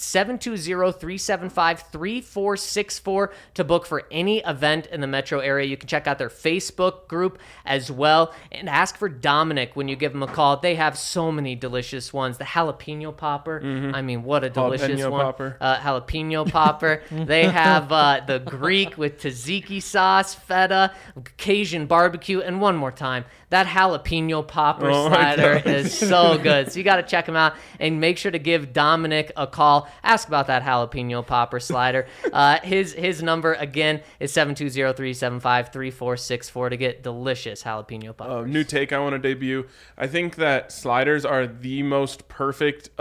B: 720-375-3464 to book for any event in the metro area. You can check out their Facebook group as well and ask for Dominic when you give them a call. They have so many delicious ones. The jalapeno popper. I mean, what a delicious
A: Jalapeno
B: one.
A: popper.
B: Jalapeno popper. They have the Greek with tzatziki sauce, feta, Cajun barbecue, and one more time, that jalapeno popper slider is so good. So you got to check them out and make sure to give Dominic a call. Ask about that jalapeno popper slider. His number again is 720-375-3464 to get delicious jalapeno poppers.
A: New take I want to debut. I think that sliders are the most perfect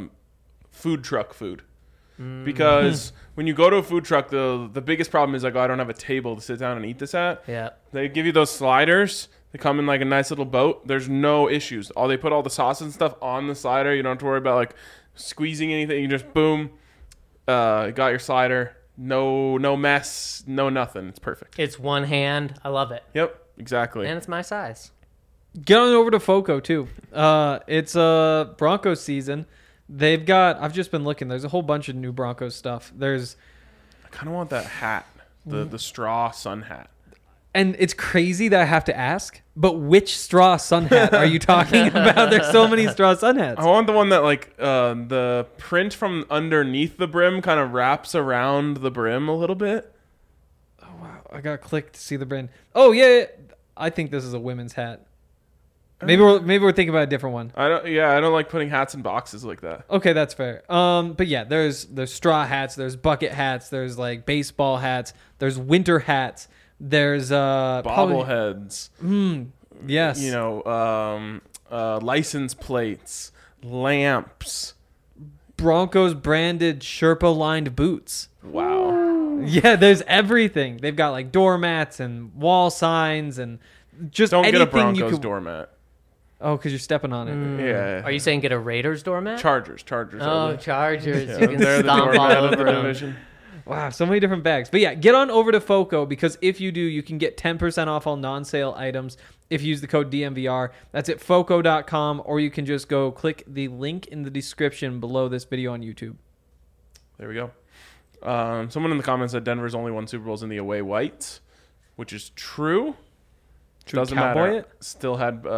A: food truck food. Because when you go to a food truck, the biggest problem is like, oh, I don't have a table to sit down and eat this at.
B: Yeah.
A: They give you those sliders. They come in like a nice little boat. There's no issues. They put all the sauce and stuff on the slider. You don't have to worry about like squeezing anything. You just boom, got your slider. No mess, no nothing. It's perfect.
B: It's one hand. I love it.
A: Yep, exactly.
B: And it's my size.
C: Get on over to FOCO too. It's Broncos season. They've got. I've just been looking. There's a whole bunch of new Broncos stuff.
A: I kind of want that hat, the straw sun hat.
C: And it's crazy that I have to ask, but which straw sun hat are you talking about? There's so many straw sun hats.
A: I want the one that like the print from underneath the brim kind of wraps around the brim a little bit.
C: Oh wow! I gotta click to see the brand. Oh yeah. I think this is a women's hat. Maybe we're thinking about a different one.
A: I don't like putting hats in boxes like that.
C: Okay, that's fair. But yeah, there's straw hats, there's bucket hats, there's like baseball hats, there's winter hats, there's
A: bobbleheads.
C: Yes.
A: You know, license plates, lamps,
C: Broncos branded Sherpa lined boots.
A: Wow.
C: Yeah, there's everything. They've got like doormats and wall signs and just
A: don't
C: anything
A: get a Broncos
C: you could...
A: doormat.
C: Oh, because you're stepping on it.
A: Yeah.
B: Are you saying get a Raiders doormat?
A: Chargers?
B: Oh, Chargers.
A: Yeah,
B: You can
A: they're the
B: stomp all
A: doormat of the
B: over them.
A: division.
C: Wow, so many different bags. But yeah, get on over to FOCO because if you do, you can get 10% off all non-sale items if you use the code DMVR. That's at FOCO.com, or you can just go click the link in the description below this video on YouTube.
A: There we go. Someone in the comments said Denver's only won Super Bowls in the away whites, which is true. Doesn't
C: Cowboy
A: matter.
C: it?
A: Still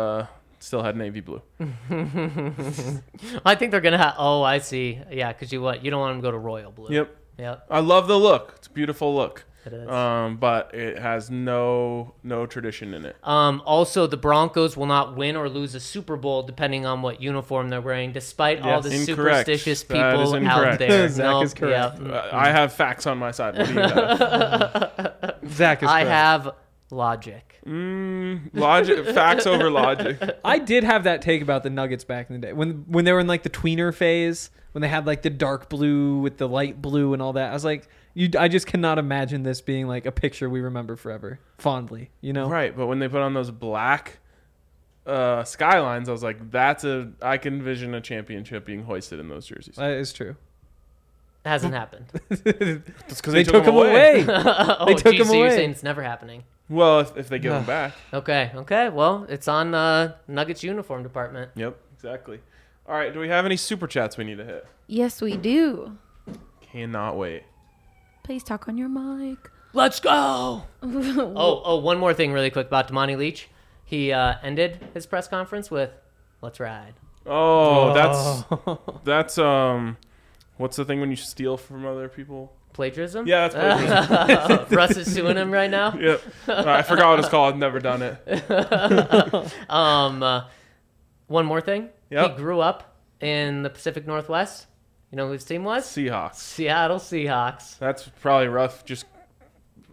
A: had navy blue.
B: I think they're gonna have. Oh, I see. Yeah, because you don't want them to go to royal blue.
A: Yep. I love the look. It's a beautiful look.
B: It is.
A: But it has no tradition in it.
B: Also, the Broncos will not win or lose a Super Bowl depending on what uniform they're wearing, despite all the
A: Incorrect.
B: superstitious
A: That is
B: people out
A: incorrect.
B: there.
C: Zach is correct.
B: Yeah.
A: I have facts on my side. What do you have?
C: Zach is
B: I
C: correct.
B: have logic.
A: Logic, facts over logic.
C: I did have that take about the Nuggets back in the day when they were in like the tweener phase, when they had like the dark blue with the light blue and all that. I was like, I just cannot imagine this being like a picture we remember forever, fondly. You know,
A: Right, but when they put on those black skylines, I was like, I can envision a championship being hoisted in those jerseys.
C: that is true.
B: It hasn't happened.
A: It's because
C: They took them away.
B: Oh,
C: They took
B: geez,
C: him
B: so you're
C: away.
B: saying it's never happening.
A: Well, if they give them back.
B: Okay. Well, it's on Nuggets uniform department.
A: Yep, exactly. All right, do we have any super chats we need to hit?
D: Yes, we do.
A: Cannot wait.
D: Please talk on your mic.
B: Let's go. One more thing really quick about Damani Leach. He ended his press conference with, "Let's ride."
A: Oh, that's what's the thing when you steal from other people?
B: Plagiarism?
A: Yeah, that's plagiarism.
B: Russ is suing him right now.
A: Yep. I forgot what it's called. I've never done it.
B: One more thing.
A: Yep.
B: He grew up in the Pacific Northwest. You know who his team was?
A: Seahawks.
B: Seattle Seahawks.
A: That's probably rough. Just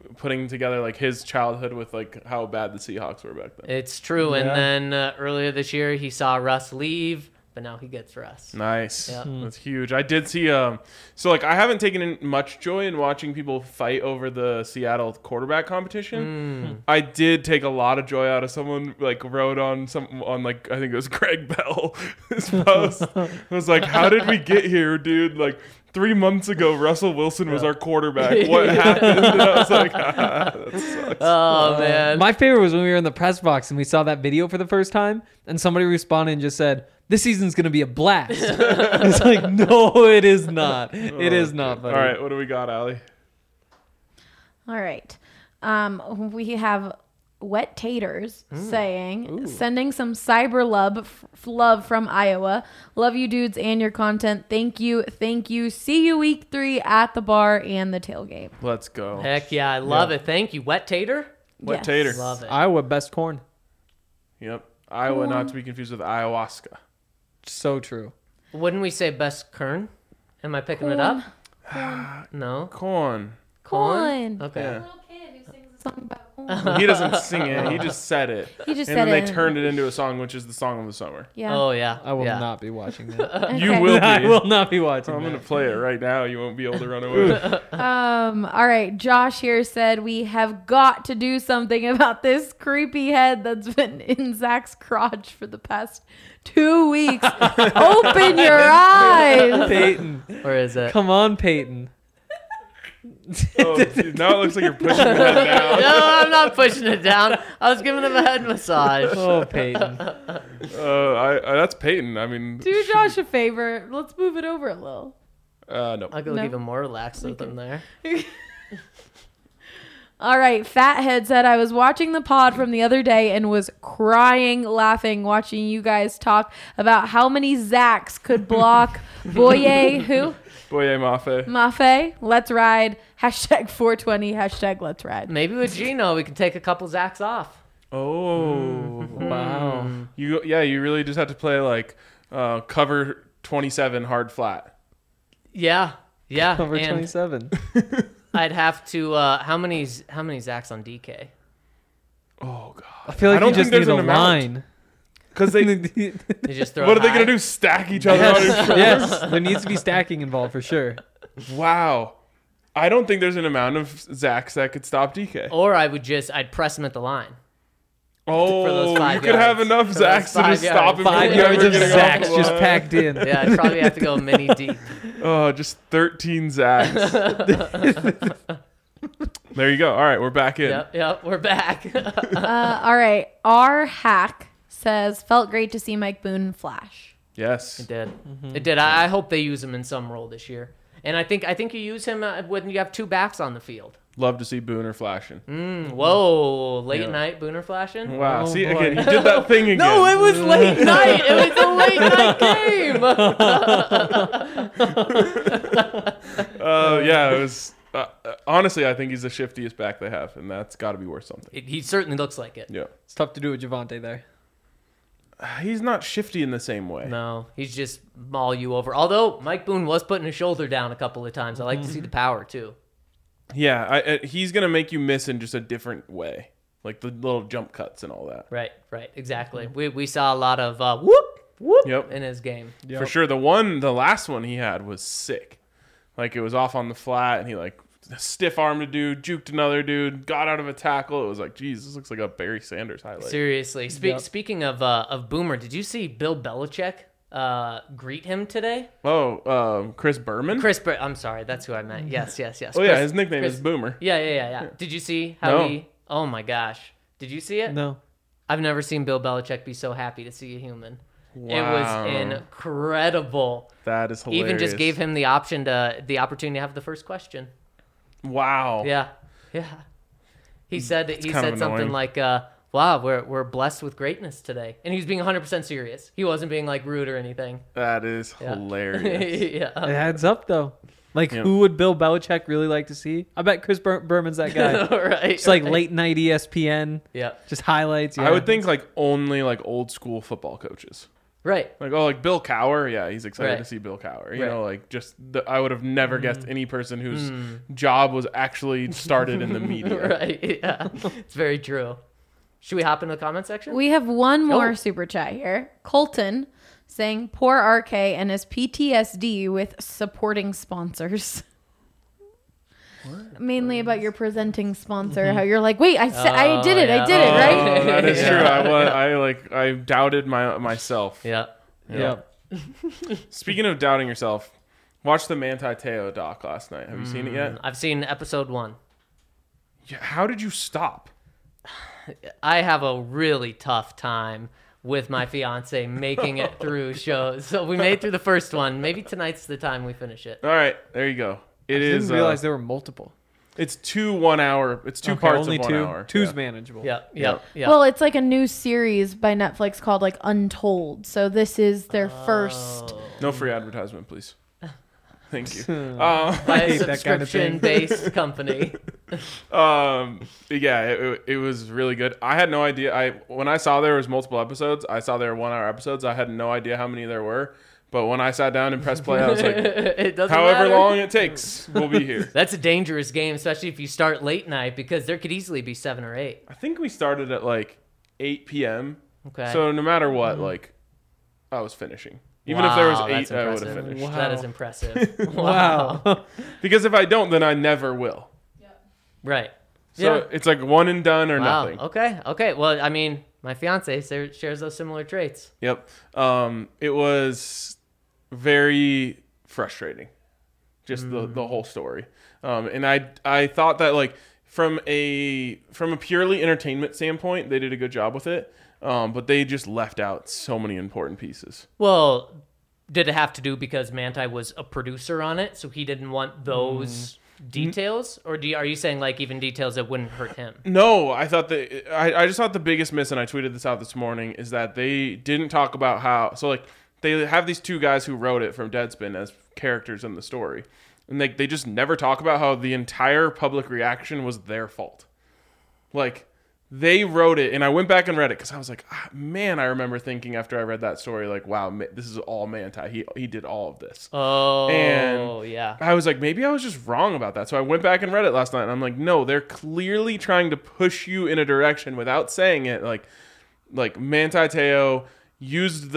A: putting together like his childhood with like how bad the Seahawks were back then.
B: It's true.
C: Yeah.
B: And then earlier this year, he saw Russ leave, but now he gets Russ.
A: Nice.
B: Yeah.
A: That's huge. I did see so like I haven't taken in much joy in watching people fight over the Seattle quarterback competition. I did take a lot of joy out of someone like wrote on like I think it was Greg Bell his post. It was like, how did we get here, dude? Like 3 months ago, Russell Wilson was our quarterback. What happened? And I was like, that sucks.
B: Oh, man.
C: My favorite was when we were in the press box and we saw that video for the first time, and somebody responded and just said, "This season's gonna be a blast." It's like, no, it is not. It is not. Buddy.
A: All right, what do we got, Allie?
D: All right. We have Wet Taters saying, sending some cyber love from Iowa. Love you dudes and your content. Thank you. See you week 3 at the bar and the tailgate.
A: Let's go.
B: Heck yeah, I love it. Thank you. Wet Tater?
A: Wet
D: Yes.
A: Tater.
B: Love it.
C: Iowa best corn.
A: Yep. Iowa, not to be confused with ayahuasca.
C: So true.
B: Wouldn't we say best Kern? Am I picking it up? No.
A: Corn.
D: Corn.
B: Okay.
A: Yeah.
D: Little kid who sings a song about corn.
A: Well, he doesn't sing it. He just said it.
D: He just
A: and
D: said
A: then
D: it.
A: they turned it into a song, which is the song of the summer.
D: Yeah.
B: Oh, yeah.
C: I will
B: yeah.
C: not be watching that.
A: You
D: Okay.
A: will be.
C: I will not be watching
A: I'm
C: that.
A: going to play it right now. You won't be able to run away.
D: All right. Josh here said we have got to do something about this creepy head that's been in Zach's crotch for the past 2 weeks. Open your eyes.
C: Peyton.
B: Where is it?
C: Come on, Peyton.
A: Oh, dude, now it looks like you're pushing your head down.
B: No, I'm not pushing it down. I was giving him a head massage.
C: Oh, Peyton.
A: That's Peyton. I mean,
D: Do Josh a favor. Let's move it over a little.
A: no.
B: I'll go
D: No.
B: even more relaxed with him there.
D: All right, Fathead said, I was watching the pod from the other day and was crying, laughing, watching you guys talk about how many Zachs could block Boye, who?
A: Boye Mafe.
D: Mafe, let's ride, hashtag 420, hashtag let's ride.
B: Maybe with Gino, we can take a couple Zacks off.
A: Oh.
C: Wow.
A: You really just have to play like cover 27 hard flat.
B: Yeah. Yeah.
C: Over
B: and
C: 27.
B: I'd have to, how many Zacks on DK?
A: Oh god.
C: I feel like
A: I don't
C: you just
A: think
C: need
A: there's
C: a
A: an amount.
C: line.
A: Because they,
B: You just throw
A: what
B: it
A: are they
B: high?
A: gonna do? Stack each other on his shoulders?
C: Yes, there needs to be stacking involved for sure.
A: Wow. I don't think there's an amount of Zacks that could stop DK.
B: Or I'd press him at the line.
A: Oh,
B: for those 5
A: you could have
B: yards.
A: enough
B: For those
A: Zacks to
B: 5
A: just stop him.
B: yards.
A: from
C: 5
A: ever
C: yards of
A: getting off
C: Zacks
A: the
C: just
A: line.
C: packed in.
B: Yeah, I'd probably have to go mini deep.
A: Oh, just 13 Zacks. There you go. All right, we're back in.
B: Yep, we're back.
D: All right, R Hack says, felt great to see Mike Boone flash.
A: Yes.
B: It did. It did. I hope they use him in some role this year. And I think you use him when you have 2 backs on the field.
A: Love to see Booner flashing.
B: Whoa, late
A: Yeah.
B: night Booner flashing?
A: Wow.
C: Oh,
A: See,
C: boy.
A: again, he did that thing again.
B: No, it was late night. It was a late night game.
A: Yeah, it was. Honestly, I think he's the shiftiest back they have, and that's got to be worth something.
B: He certainly looks like it.
A: Yeah.
C: It's tough to do with Javante there.
A: He's not shifty in the same way.
B: No, he's just maul you over. Although Mike Boone was putting his shoulder down a couple of times. I like to see the power too.
A: Yeah, he's going to make you miss in just a different way. Like the little jump cuts and all that.
B: Right, exactly. We saw a lot of whoop whoop
A: Yep.
B: in his game.
C: Yep.
A: For sure. The last one he had was sick. Like it was off on the flat, and he like stiff armed a dude, juked another dude, got out of a tackle. It was like, geez, this looks like a Barry Sanders highlight.
B: Seriously.
C: Yep.
B: Speaking of Boomer, did you see Bill Belichick greet him today?
A: Oh, Chris Berman?
B: I'm sorry, that's who I meant. Yes.
A: Oh, yeah, his nickname is Boomer.
B: Yeah. Did you see how
A: No.
B: he? Oh my gosh, did you see it?
C: No.
B: I've never seen Bill Belichick be so happy to see a human.
A: Wow.
B: It was incredible.
A: That is hilarious.
B: Even just gave him the opportunity to have the first question.
A: Wow.
B: Yeah. He said
A: kind of
B: something
A: annoying.
B: like, "Wow, we're blessed with greatness today," and he was being 100% serious. He wasn't being like rude or anything.
A: That is
B: Yeah.
A: hilarious.
C: It
B: Yeah.
C: adds up though. Like,
A: Yep.
C: who would Bill Belichick really like to see? I bet Chris Berman's that guy.
B: Right.
C: It's like late night ESPN,
B: Yeah.
C: just highlights.
A: I would think like only like old school football coaches.
B: Right.
A: Like, oh, like Bill Cowher. Yeah, he's excited
B: Right.
A: to see Bill Cowher. You
B: Right.
A: know, like I would have never guessed any person whose job was actually started in the media.
B: Right. Yeah. It's very true. Should we hop into the comment section?
D: We have one more
B: Oh.
D: super chat here. Colton saying, poor RK and his PTSD with supporting sponsors. Mainly about your presenting sponsor, how you're like, wait, I did it,
B: yeah.
D: I did it, right?
A: Oh, that is
B: Yeah.
A: true. I doubted myself.
B: Yeah.
C: Yeah.
A: Speaking of doubting yourself, watch the Manti Te'o doc last night. Have you seen it yet?
B: I've seen episode 1.
A: Yeah, how did you stop?
B: I have a really tough time with my fiance making it through shows. So we made it through the first one. Maybe tonight's the time we finish it.
A: All right, there you go. It
C: I
A: is.
C: didn't realize there were multiple.
A: It's 2 1 hour. It's two
C: Okay,
A: parts
C: only
A: of 1
C: two.
A: hour.
C: Two's
A: Yeah.
C: manageable.
B: Yeah.
A: Yeah.
D: Well, it's like a new series by Netflix called like Untold. So this is their first.
A: No free advertisement, please. Thank you.
B: by a
C: hate that kind of thing.
B: subscription-based company.
A: Yeah, it was really good. I had no idea. When I saw there was multiple episodes, I saw there were 1 hour episodes. I had no idea how many there were. But when I sat down and pressed play, I was like,
B: It doesn't
A: however
B: matter.
A: long it takes, we'll be here.
B: That's a dangerous game, especially if you start late night, because there could easily be 7 or 8.
A: I think we started at like 8 p.m.
B: Okay.
A: So no matter what, like, I was finishing. Even if there was
B: Wow,
A: 8,
B: that's
A: I would have
B: impressive.
A: finished.
C: Wow.
B: That is impressive.
C: Wow.
A: Because if I don't, then I never will.
B: Right.
A: So
B: Yeah.
A: it's like one and done or
B: Wow.
A: nothing.
B: Okay. Well, I mean, my fiance shares those similar traits.
A: Yep. It was very frustrating, just the whole story. And I thought that like from a purely entertainment standpoint, they did a good job with it. But they just left out so many important pieces.
B: Well, did it have to do because Manti was a producer on it, so he didn't want those details? Or are you saying like even details that wouldn't hurt him?
A: No, I thought that I just thought the biggest miss, and I tweeted this out this morning, is that they didn't talk about how. So like they have these 2 guys who wrote it from Deadspin as characters in the story, and they just never talk about how the entire public reaction was their fault. Like they wrote it, and I went back and read it because I was like, man, I remember thinking after I read that story, like, wow, this is all Manti. He did all of this.
B: Oh,
A: And
B: yeah.
A: I was like, maybe I was just wrong about that. So I went back and read it last night, and I'm like, no, they're clearly trying to push you in a direction without saying it. Like Manti Te'o used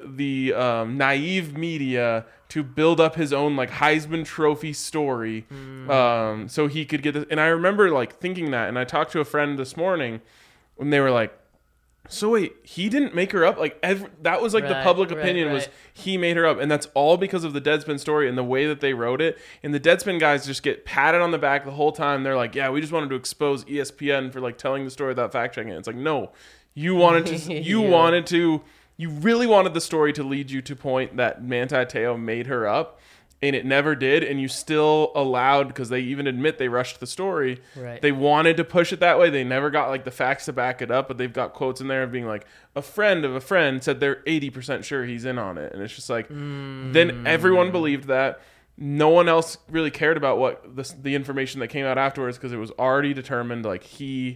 A: the naive media to build up his own like Heisman Trophy story, so he could get this. And I remember like thinking that, and I talked to a friend this morning, and they were like, so wait, he didn't make her up? Like that was like the
B: Right,
A: public
B: right,
A: opinion was
B: right.
A: he made her up, and that's all because of the Deadspin story and the way that they wrote it. And the Deadspin guys just get patted on the back the whole time. They're like, yeah, we just wanted to expose ESPN for like telling the story without fact checking it. It's like, no, you wanted to,
B: Yeah.
A: you really wanted the story to lead you to point that Manti Te'o made her up, and it never did, and you still allowed, because they even admit they rushed the story.
B: Right.
A: They wanted to push it that way. They never got like the facts to back it up, but they've got quotes in there of being like, a friend of a friend said they're 80% sure he's in on it. And it's just like, then everyone believed that. No one else really cared about what the information that came out afterwards, because it was already determined like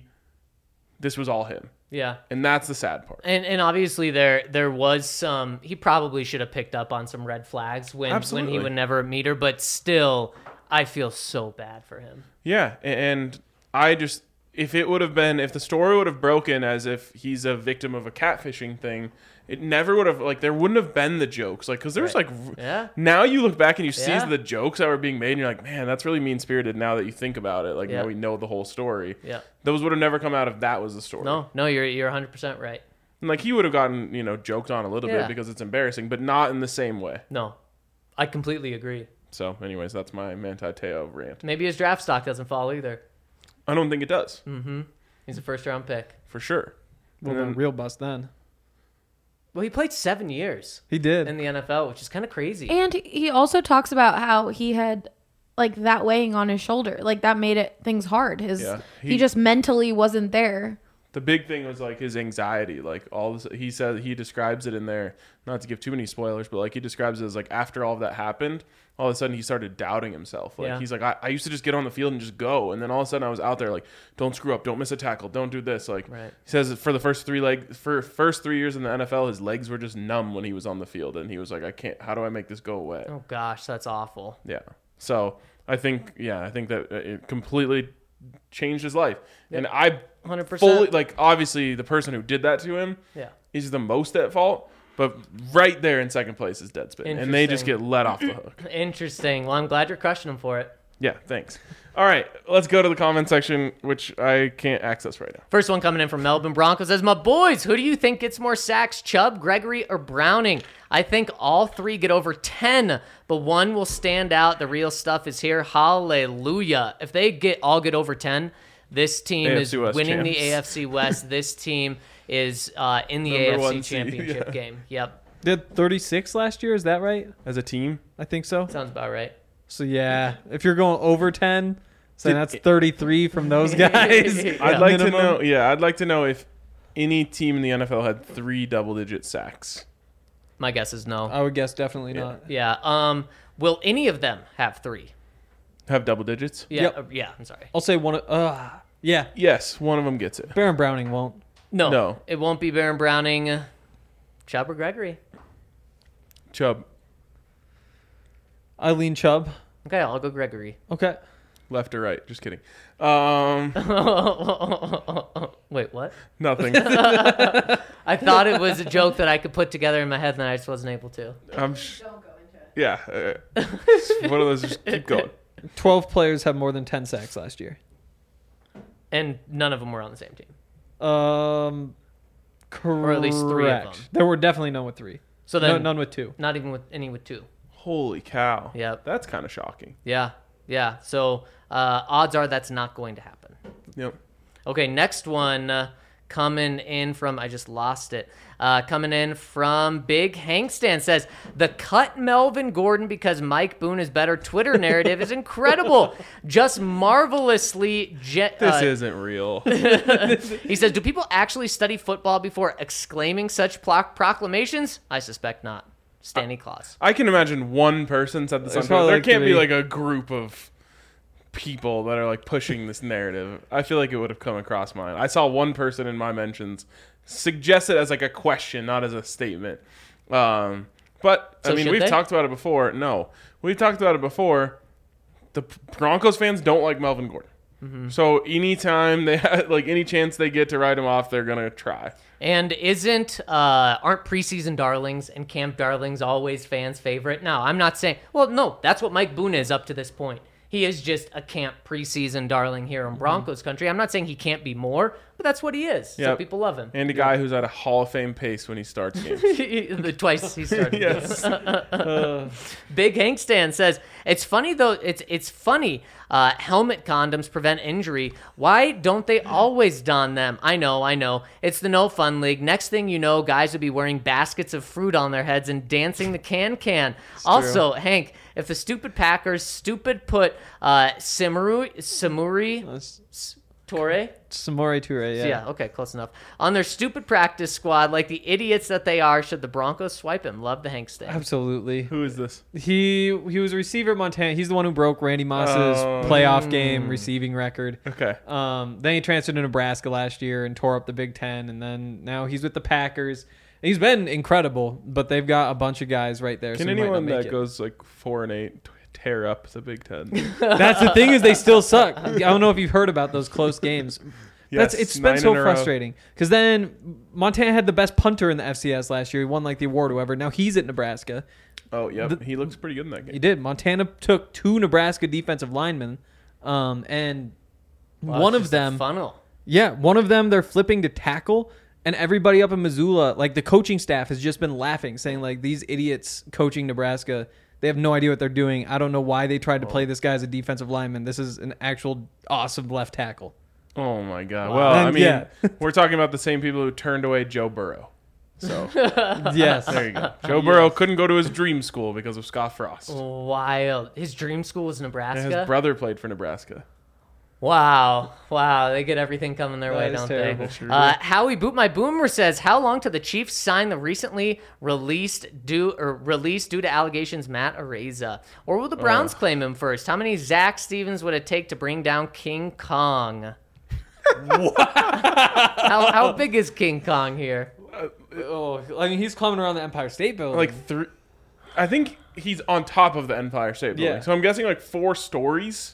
A: this was all him.
B: Yeah.
A: And that's the sad part.
B: And obviously there was some, he probably should have picked up on some red flags when he
A: Absolutely.
B: would never meet her, but still I feel so bad for him.
A: Yeah, and I just, if the story would have broken as if he's a victim of a catfishing thing, it never would have, like, there wouldn't have been the jokes. Like, because there's,
B: Right.
A: like,
B: Yeah.
A: now you look back and you see
B: Yeah.
A: the jokes that were being made, and you're like, man, that's really mean-spirited now that you think about it. Like,
B: Yeah.
A: now we know the whole story.
B: Yeah.
A: Those would have never come out if that was the story.
B: No, you're 100% right.
A: And, like, he would have gotten, joked on a little
B: Yeah.
A: bit because it's embarrassing, but not in the same way.
B: No. I completely agree.
A: So, anyways, that's my Manti Te'o rant.
B: Maybe his draft stock doesn't fall either.
A: I don't think it does,
B: He's a first round pick.
A: for sure.
C: Well,
A: And
C: then
A: then-
C: real bust then.
B: Well, he played 7 years
C: He did.
B: in the NFL, which is kind of crazy.
D: And he also talks about how he had like that weighing on his shoulder, like that made things hard.
A: Yeah.
D: He just mentally wasn't there.
A: The big thing was like his anxiety, like all this. He said he describes it in there, not to give too many spoilers, but like he describes it as like after all of that happened, all of a sudden he started doubting himself. Like
B: Yeah.
A: he's like, I used to just get on the field and just go, and then all of a sudden I was out there like, don't screw up, don't miss a tackle, don't do this. Like
B: Right.
A: he says for the first 3 years in the NFL, his legs were just numb when he was on the field, and he was like, I can't. How do I make this go away?
B: Oh gosh, that's awful.
A: Yeah. So I think that it completely changed his life, and I
B: 100%.
A: fully like obviously the person who did that to him
B: Yeah.
A: is the most at fault. But right there in second place is Deadspin, and they just get let off the hook.
B: Interesting. Well, I'm glad you're crushing him for it.
A: Yeah, thanks. All right, let's go to the comment section, which I can't access right now.
B: First one coming in from Melbourne Broncos says, my boys, who do you think gets more sacks, Chubb, Gregory, or Browning? I think all three get over 10, but one will stand out. The real stuff is here. Hallelujah. If they all get over 10, this team is
A: AFC West
B: winning the
A: champs.
B: AFC West. This team is in the
A: Number one
B: AFC
A: seed,
B: championship
A: yeah.
B: game. Yep.
C: They had 36 last year. Is that right?
A: As a team,
C: I think so.
B: Sounds about right.
C: So yeah, if you're going over 10, so
A: Did-
C: that's 33 from those guys.
A: I'd like to
C: Minimum.
A: know. Yeah, I'd like to know if any team in the NFL had 3 double-digit sacks.
B: My guess is no.
C: I would guess definitely
A: Yeah.
C: not.
B: Yeah. Will any of them have 3?
A: Have double digits?
B: Yeah.
C: Yep.
B: Yeah. I'm sorry.
C: I'll say one. Yeah,
A: Yes, one of them gets it.
C: Baron Browning won't.
B: No. It won't be Baron Browning, Chubb, or Gregory.
A: Chubb,
C: Eileen Chubb.
B: Okay, I'll go Gregory.
C: Okay.
A: left or right? Just kidding.
B: Wait, what?
A: Nothing.
B: I thought it was a joke that I could put together in my head, and I just wasn't able to.
A: I'm.
D: Don't go into it.
A: Yeah. One of those. Just keep going.
C: 12 players have more than 10 sacks last year.
B: And none of them were on the same team.
C: Correct.
B: Or at least 3 of them.
C: There were definitely none with 3.
B: So then,
C: None with 2.
B: not even with any with 2.
A: Holy cow.
B: Yep.
A: That's kind of shocking.
B: Yeah, yeah. So odds are that's not going to happen.
A: Yep.
B: Okay, next one coming in from, I just lost it. Coming in from Big Hankstan says, the cut Melvin Gordon because Mike Boone is better Twitter narrative is incredible. Just marvelously.
A: This isn't real.
B: He says, do people actually study football before exclaiming such proclamations? I suspect not. Stanley Claus.
A: I can imagine one person said this on
C: There's
A: Twitter.
C: probably
A: There
C: like
A: can't be
C: 3.
A: like a group of people that are like pushing this narrative. I feel like it would have come across mine. I saw one person in my mentions suggest it as like a question, not as a statement. But
B: So
A: I mean,
B: should
A: we've
B: they?
A: talked about it before. No, we've talked about it before. The Broncos fans don't like Melvin Gordon.
B: Mm-hmm.
A: So anytime they have, like any chance they get to write him off, they're gonna try.
B: And aren't preseason darlings and camp darlings always fans' favorite? No, I'm not saying. Well, no, that's what Mike Boone is up to this point. He is just a camp preseason darling here in Broncos country. I'm not saying he can't be more, but that's what he is. So
A: Yep.
B: people love him.
A: And a guy who's at a Hall of Fame pace when he starts games.
B: The twice he started.
A: Yes.
B: Big Hank Stan says, it's funny though, it's funny. Helmet condoms prevent injury. Why don't they always don them? I know. It's the no fun league. Next thing you know, guys would be wearing baskets of fruit on their heads and dancing the can. Also, Hank, if the stupid Packers put Samuri Torre.
C: Samori Toure, yeah.
B: Yeah, okay, close enough. On their stupid practice squad, like the idiots that they are, should the Broncos swipe him? Love the Hank Stan.
C: Absolutely.
A: Who is this?
C: He was a receiver at Montana. He's the one who broke Randy Moss's playoff game receiving record.
A: Okay.
C: Then he transferred to Nebraska last year and tore up the Big Ten, and then now he's with the Packers. He's been incredible, but they've got a bunch of guys right there.
A: Can
C: so he might not
A: anyone
C: make
A: that
C: it.
A: goes like 4-8 tear up the Big Ten?
C: That's the thing is they still suck. I don't know if you've heard about those close games.
A: Yes,
C: It's
A: 9
C: been so
A: in a row.
C: frustrating because then Montana had the best punter in the FCS last year. He won like the award, or whatever. Now he's at Nebraska.
A: Oh, yep. He looks pretty good in that
C: He
A: game.
C: did. Montana took 2 Nebraska defensive linemen, and
B: Wow,
C: one
B: it's
C: of
B: just a
C: them,
B: funnel.
C: yeah, one of them they're flipping to tackle, and everybody up in Missoula, like the coaching staff, has just been laughing, saying like these idiots coaching Nebraska. They have no idea what they're doing. I don't know why they tried to play this guy as a defensive lineman. This is an actual awesome left tackle.
A: Oh my God.
B: Wow.
A: Well, I
C: And,
A: mean,
C: yeah.
A: we're talking about the same people who turned away Joe Burrow. So
C: Yes.
A: there you go. Joe Burrow couldn't go to his dream school because of Scott Frost.
B: Wild. His dream school was
A: And
B: Nebraska.
A: his brother played for Nebraska.
B: Wow. They get everything coming their way,
C: is
B: don't
C: terrible.
B: they? Howie Boot My Boomer says, how long till the Chiefs sign the recently released due to allegations Matt Araiza? Or will the Browns claim him first? How many Zach Stevens would it take to bring down King Kong? How big is King Kong here?
C: I mean, he's climbing around the Empire State Building.
A: Like I think he's on top of the Empire State Building.
C: Yeah.
A: So I'm guessing like 4 stories.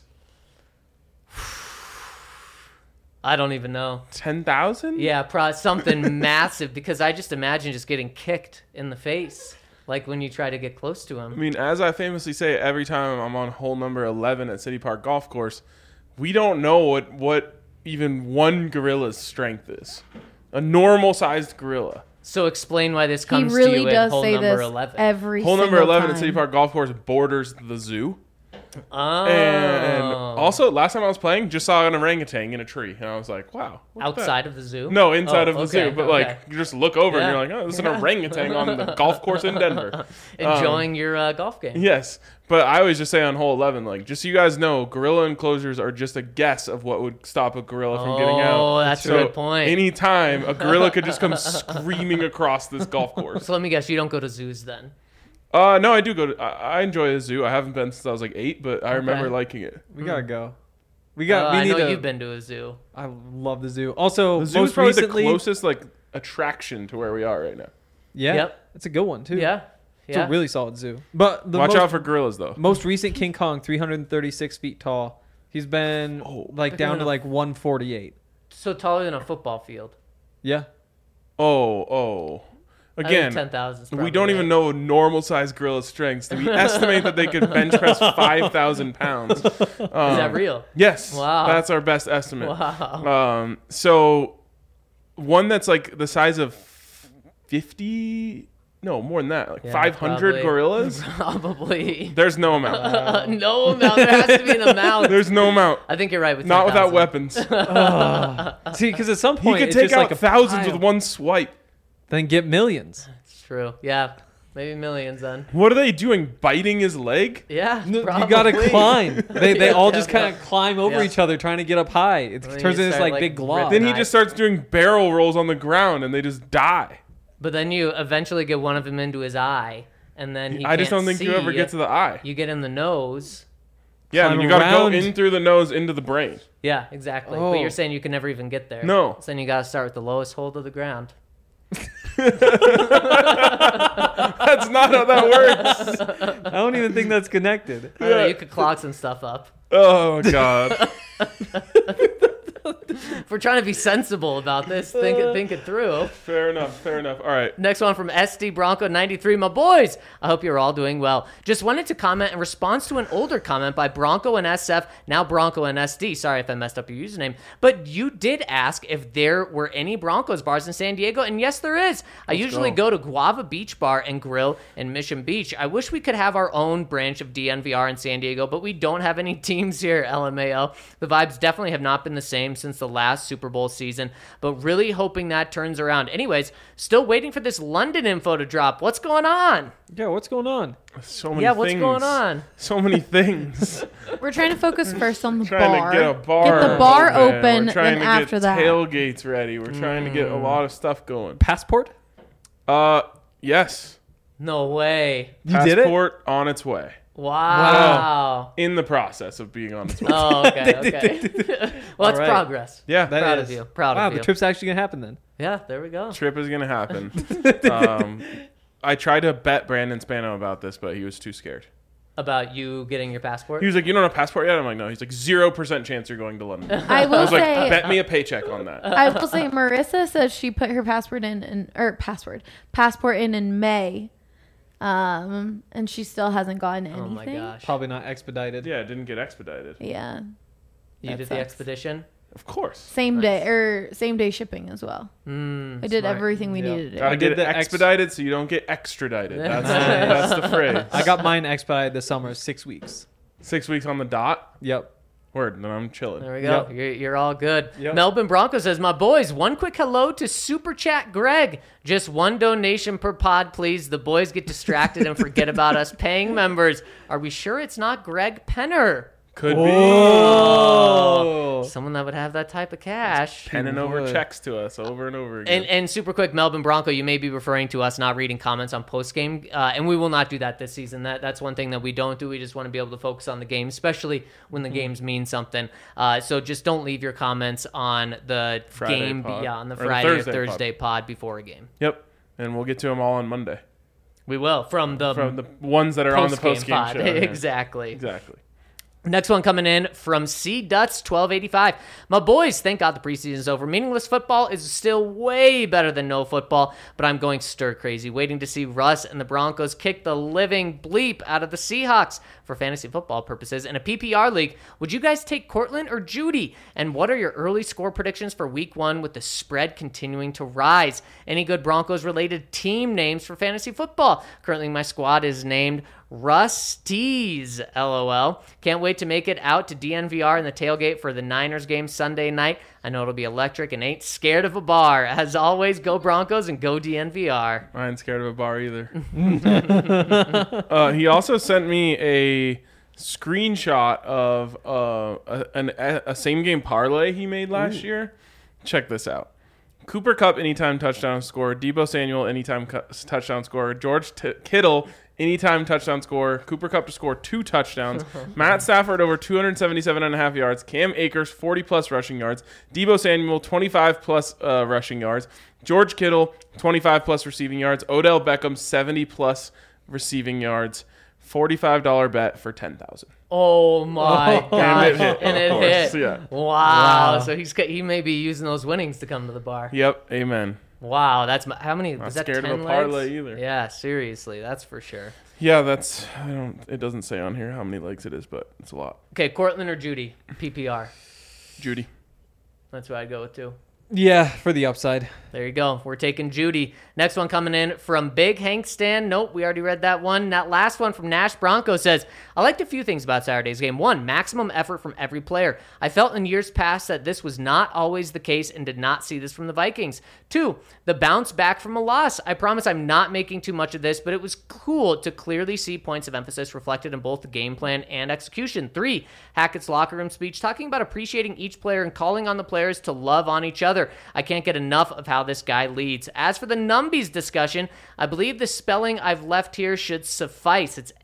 B: I don't even know.
A: 10,000?
B: Yeah, something massive, because I just imagine just getting kicked in the face, like when you try to get close to
A: I
B: him.
A: mean, as I famously say every time I'm on hole number 11 at City Park Golf Course, we don't know what even one gorilla's strength is. A normal-sized gorilla.
B: So explain why this
D: He
B: comes to
D: really
B: you
D: does
B: at hole
D: say
B: number
D: this
B: 11.
D: every
A: Hole number
D: single
A: 11
D: time.
A: at City Park Golf Course borders the zoo.
B: Oh.
A: And also, last time I was playing, just saw an orangutan in a tree. And I was like, wow. what's that?
B: Outside of the zoo?
A: No, inside of the
B: okay,
A: zoo. But,
B: okay.
A: like, you just look over
B: Yeah.
A: and you're like, oh, this is an orangutan on the golf course in Denver.
B: Enjoying your golf game.
A: Yes. But I always just say on hole 11, like, just so you guys know, gorilla enclosures are just a guess of what would stop a gorilla from getting out.
B: Oh, that's a good point.
A: Anytime, a gorilla could just come screaming across this golf course.
B: So let me guess, you don't go to zoos then?
A: No, I do go to... I enjoy a zoo. I haven't been since I was like 8, but I remember liking it.
C: we gotta go. We
B: I
C: need
B: know
C: to.
B: you've been to a zoo.
C: I love the zoo. Also,
A: The zoo is
C: most
A: probably
C: recently,
A: the closest, like, attraction to where we are right now.
C: yeah,
B: Yep.
C: it's a good one too.
B: Yeah.
C: It's
B: Yeah.
C: a really solid zoo. But the
A: Watch
C: most,
A: out for gorillas, though.
C: most recent King Kong, 336 feet tall. He's been down to like 148.
B: So taller than a football field.
C: Yeah.
A: Oh. Again,
B: 10,000.
A: we don't even know normal-sized gorilla strengths. We estimate that they could bench press 5,000 pounds.
B: Is that real?
A: Yes.
B: Wow.
A: That's our best estimate.
B: Wow.
A: So one that's like the size of 50... No, more than that. Like
B: Yeah,
A: 500
B: probably.
A: gorillas?
B: Probably.
A: There's no amount.
B: No amount. There has to be an amount.
A: There's no amount.
B: I think you're right with
A: Not
B: 10,000.
A: without weapons.
C: See, because at some
A: He
C: point
A: could
C: it's
A: take
C: just
A: out
C: like a
A: thousands
C: pile.
A: with one swipe.
C: Then get millions.
B: It's true. Yeah. Maybe millions then.
A: What are they doing? Biting his leg?
B: Yeah.
C: No, you
B: probably.
C: gotta climb. They all just
B: Yeah.
C: kind of climb over
B: Yeah.
C: each other trying to get up high. It
B: then
C: turns
B: you
C: into this
B: start,
C: like big
B: like,
C: glob.
A: Then he
B: Nice.
A: just starts doing barrel rolls on the ground and they just die.
B: But then you eventually get one of them into his eye, and then he
A: I just
B: can't
A: don't think you
B: see.
A: ever get to the eye.
B: You get in the nose.
A: Yeah,
C: Climb
A: you gotta go
C: around.
A: in through the nose into the brain.
B: Yeah, exactly.
C: Oh.
B: But you're saying you can never even get there.
A: No.
B: So then you gotta start with the lowest hold of the ground.
A: That's not how that works.
C: I don't even think that's connected.
B: I don't know, you could clog some stuff up.
A: Oh god.
B: If we're trying to be sensible about this, think it through.
A: Fair enough. All right.
B: Next one from SD Bronco 93. My boys, I hope you're all doing well. Just wanted to comment in response to an older comment by Bronco and SF, now Bronco and SD. Sorry if I messed up your username. But you did ask if there were any Broncos bars in San Diego, and yes, there is. I usually go to Guava Beach Bar and Grill in Mission Beach. I wish we could have our own branch of DNVR in San Diego, but we don't have any teams here, LMAO. The vibes definitely have not been the same since the last Super Bowl season, but really hoping that turns around. Anyways, still waiting for this London info to drop. What's going on?
C: Yeah, what's going on?
A: So many
B: Yeah,
A: things.
B: what's going on?
A: So many things.
D: We're trying to focus first on the
A: Trying
D: bar.
A: to get a bar.
D: Get the bar open,
A: We're trying
D: then
A: to
D: after
A: get
D: that.
A: tailgates ready. We're trying to get a lot of stuff going.
C: Passport?
A: Yes.
B: No way.
C: You did it?
A: Passport on its way.
B: Wow.
A: In the process of being on its way.
B: Oh, okay, okay. Well, it's
C: All right.
B: progress.
A: Yeah.
C: That
B: Proud
C: is-
B: of you. Proud
C: wow,
B: of you.
C: the trip's actually gonna happen then.
B: Yeah, there we go.
A: Trip is gonna happen. I tried to bet Brandon Spano about this, but he was too scared.
B: About you getting your passport?
A: He was like, "You don't have a passport yet?" I'm like, "No." He's like, 0% chance you're going to London.
D: I
A: I
D: will
A: was like,
D: say,
A: "Bet me a paycheck on that."
D: I will say, Marissa says she put her passport in May, and she still hasn't gotten anything.
B: Oh my gosh.
C: Probably not expedited.
A: Yeah, it didn't get expedited.
D: Yeah,
B: You
D: that
B: did the
D: sucks.
B: expedition?
A: Of course.
D: same day shipping as well. I did
B: smart.
D: everything we
C: Yep.
D: needed to do.
A: Gotta
C: did
A: get it
C: the
A: expedited so you don't get extradited. That's the phrase.
C: I got mine expedited this summer, 6 weeks.
A: 6 weeks on the dot.
C: Yep.
A: Word. Then I'm chilling.
B: There we go.
C: Yep.
B: You're all good.
C: Yep.
B: Melbourne Broncos says, my boys, one quick hello to Super Chat Greg. Just one donation per pod, please. The boys get distracted and forget about us paying members. Are we sure it's not Greg Penner?
A: Could
B: Oh. Someone that would have that type of cash.
A: penning over checks to us over and over again.
B: And super quick, Melbourne Bronco, you may be referring to us not reading comments on post-game, and we will not do that this season. That's one thing that we don't do. We just want to be able to focus on the game, especially when the games mean something. So just don't leave your comments on the
A: Friday
B: game,
A: pod.
B: on the
A: Or the
B: Friday or
A: Thursday
B: Thursday pod before a game.
A: Yep. And we'll get to them all on Monday.
B: We will, from the
A: ones that are on the
B: post-game
A: post-game
B: pod.
A: show. Yeah.
B: Exactly.
A: Exactly.
B: Next one coming in from C Duts 1285. My boys, thank God the preseason is over. Meaningless football is still way better than no football, but I'm going stir crazy, waiting to see Russ and the Broncos kick the living bleep out of the Seahawks for fantasy football purposes. In a PPR league, would you guys take Cortland or Judy? And what are your early score predictions for week 1 with the spread continuing to rise? Any good Broncos-related team names for fantasy football? Currently, my squad is named Rusty's, LOL. Can't wait to make it out to DNVR in the tailgate for the Niners game Sunday night. I know it'll be electric and ain't scared of a bar. As always, go Broncos and go DNVR.
A: I ain't scared of a bar either. He also sent me a screenshot of a same game parlay he made last year. Check this out. Cooper Kupp anytime touchdown score, Deebo Samuel anytime touchdown score, George Kittle anytime touchdown score, Cooper Kupp to score 2 touchdowns, Matt Stafford over 277.5 yards, Cam Akers 40+ rushing yards, Deebo Samuel 25+ rushing yards, George Kittle 25+ receiving yards, Odell Beckham 70+ receiving yards, $45 bet for $10,000.
B: Oh my gosh. And it hit.
A: Yeah.
B: Wow. So he may be using those winnings to come to the bar.
A: Yep. Amen.
B: Wow. That's how many?
A: Not
B: was that
A: scared
B: 10
A: of a parlay
B: legs?
A: either.
B: Yeah, seriously. That's for sure.
A: Yeah, it doesn't say on here how many legs it is, but it's a lot.
B: Okay, Cortland or Judy? PPR.
A: Judy.
B: That's what I'd go with too.
C: Yeah, for the upside.
B: There you go. We're taking Judy. Next one coming in from Big Hank Stan. Nope, we already read that one. That last one from Nash Bronco says, I liked a few things about Saturday's game. 1, maximum effort from every player. I felt in years past that this was not always the case and did not see this from the Vikings. 2, the bounce back from a loss. I promise I'm not making too much of this, but it was cool to clearly see points of emphasis reflected in both the game plan and execution. 3, Hackett's locker room speech talking about appreciating each player and calling on the players to love on each other. I can't get enough of how this guy leads. As for the Numbies discussion, I believe the spelling I've left here should suffice. It's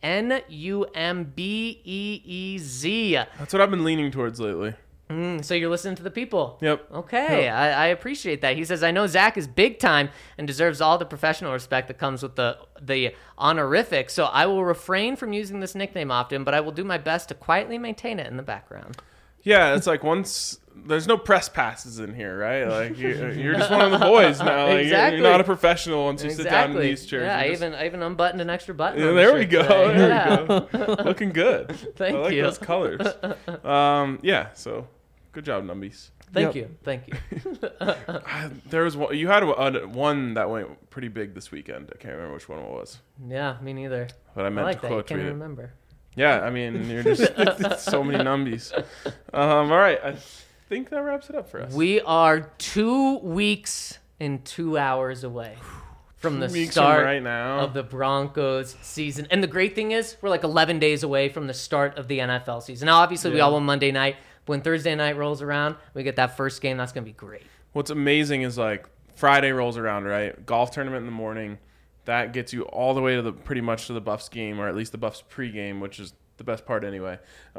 B: Numbeez.
A: That's what I've been leaning towards lately.
B: So you're listening to the people.
A: Yep.
B: Okay,
A: Yep.
B: I appreciate that. He says, I know Zach is big time and deserves all the professional respect that comes with the honorific, so I will refrain from using this nickname often, but I will do my best to quietly maintain it in the background.
A: Yeah, it's like once there's no press passes in here, right? Like you're just one of the boys now. Like,
B: Exactly.
A: You're not a professional once you sit down in these chairs.
B: Yeah,
A: You're
B: I even unbuttoned an extra button.
A: Yeah,
B: on the
A: there we
B: shirt
A: go.
B: today.
A: There
B: Yeah.
A: we go. Looking good.
B: Thank
A: I like
B: you.
A: those colors. Yeah. So good job, Numbies.
B: Thank
C: Yep.
B: you. Thank you.
A: There was one. You had one that went pretty big this weekend. I can't remember which one it was,
B: Yeah, me neither.
A: but I
B: I
A: meant
B: like
A: to
B: that. You
A: quote
B: can't
A: tweet it.
B: remember.
A: Yeah, I mean, you're just so many Numbies. All right, I think that wraps it up for us.
B: We are 2 weeks and 2 hours away from the
A: 2 weeks
B: start
A: from right now.
B: of the Broncos season. And the great thing is, we're like 11 days away from the start of the NFL season. Now, obviously, we
A: Yeah.
B: all won Monday night. When Thursday night rolls around, we get that first game. That's going to be great.
A: What's amazing is like Friday rolls around, right? Golf tournament in the morning. That gets you all the way to pretty much to the Buffs game, or at least the Buffs pregame, which is the best part anyway.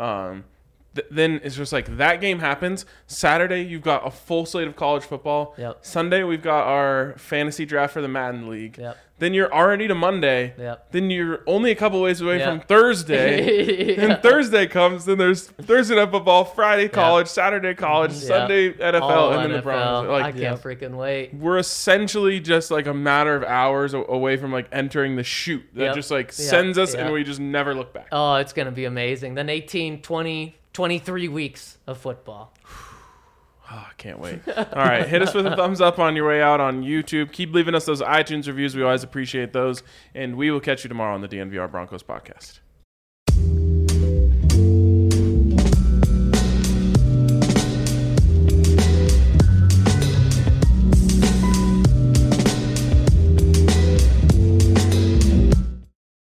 A: Then it's just like that game happens. Saturday, you've got a full slate of college football.
B: Yep.
A: Sunday, we've got our fantasy draft for the Madden League.
B: Yep.
A: Then you're already to Monday.
B: Yep.
A: Then you're only a couple ways away
B: Yep.
A: from Thursday.
B: Yeah.
A: And Thursday comes, then there's Thursday night football, Friday college, Saturday college, Sunday NFL,
B: All
A: and then the
B: NFL.
A: Broncos. Like,
B: I can't freaking wait.
A: we're essentially just like a matter of hours away from like entering the chute that
B: Yep.
A: just like
B: Yep.
A: sends us
B: Yep.
A: and we just never look back.
B: Oh, it's going to be amazing. Then 18, 20, 23 weeks of football.
A: Oh, I can't wait. All right, hit us with a thumbs up on your way out on YouTube. Keep leaving us those iTunes reviews. We always appreciate those. And we will catch you tomorrow on the DNVR Broncos podcast.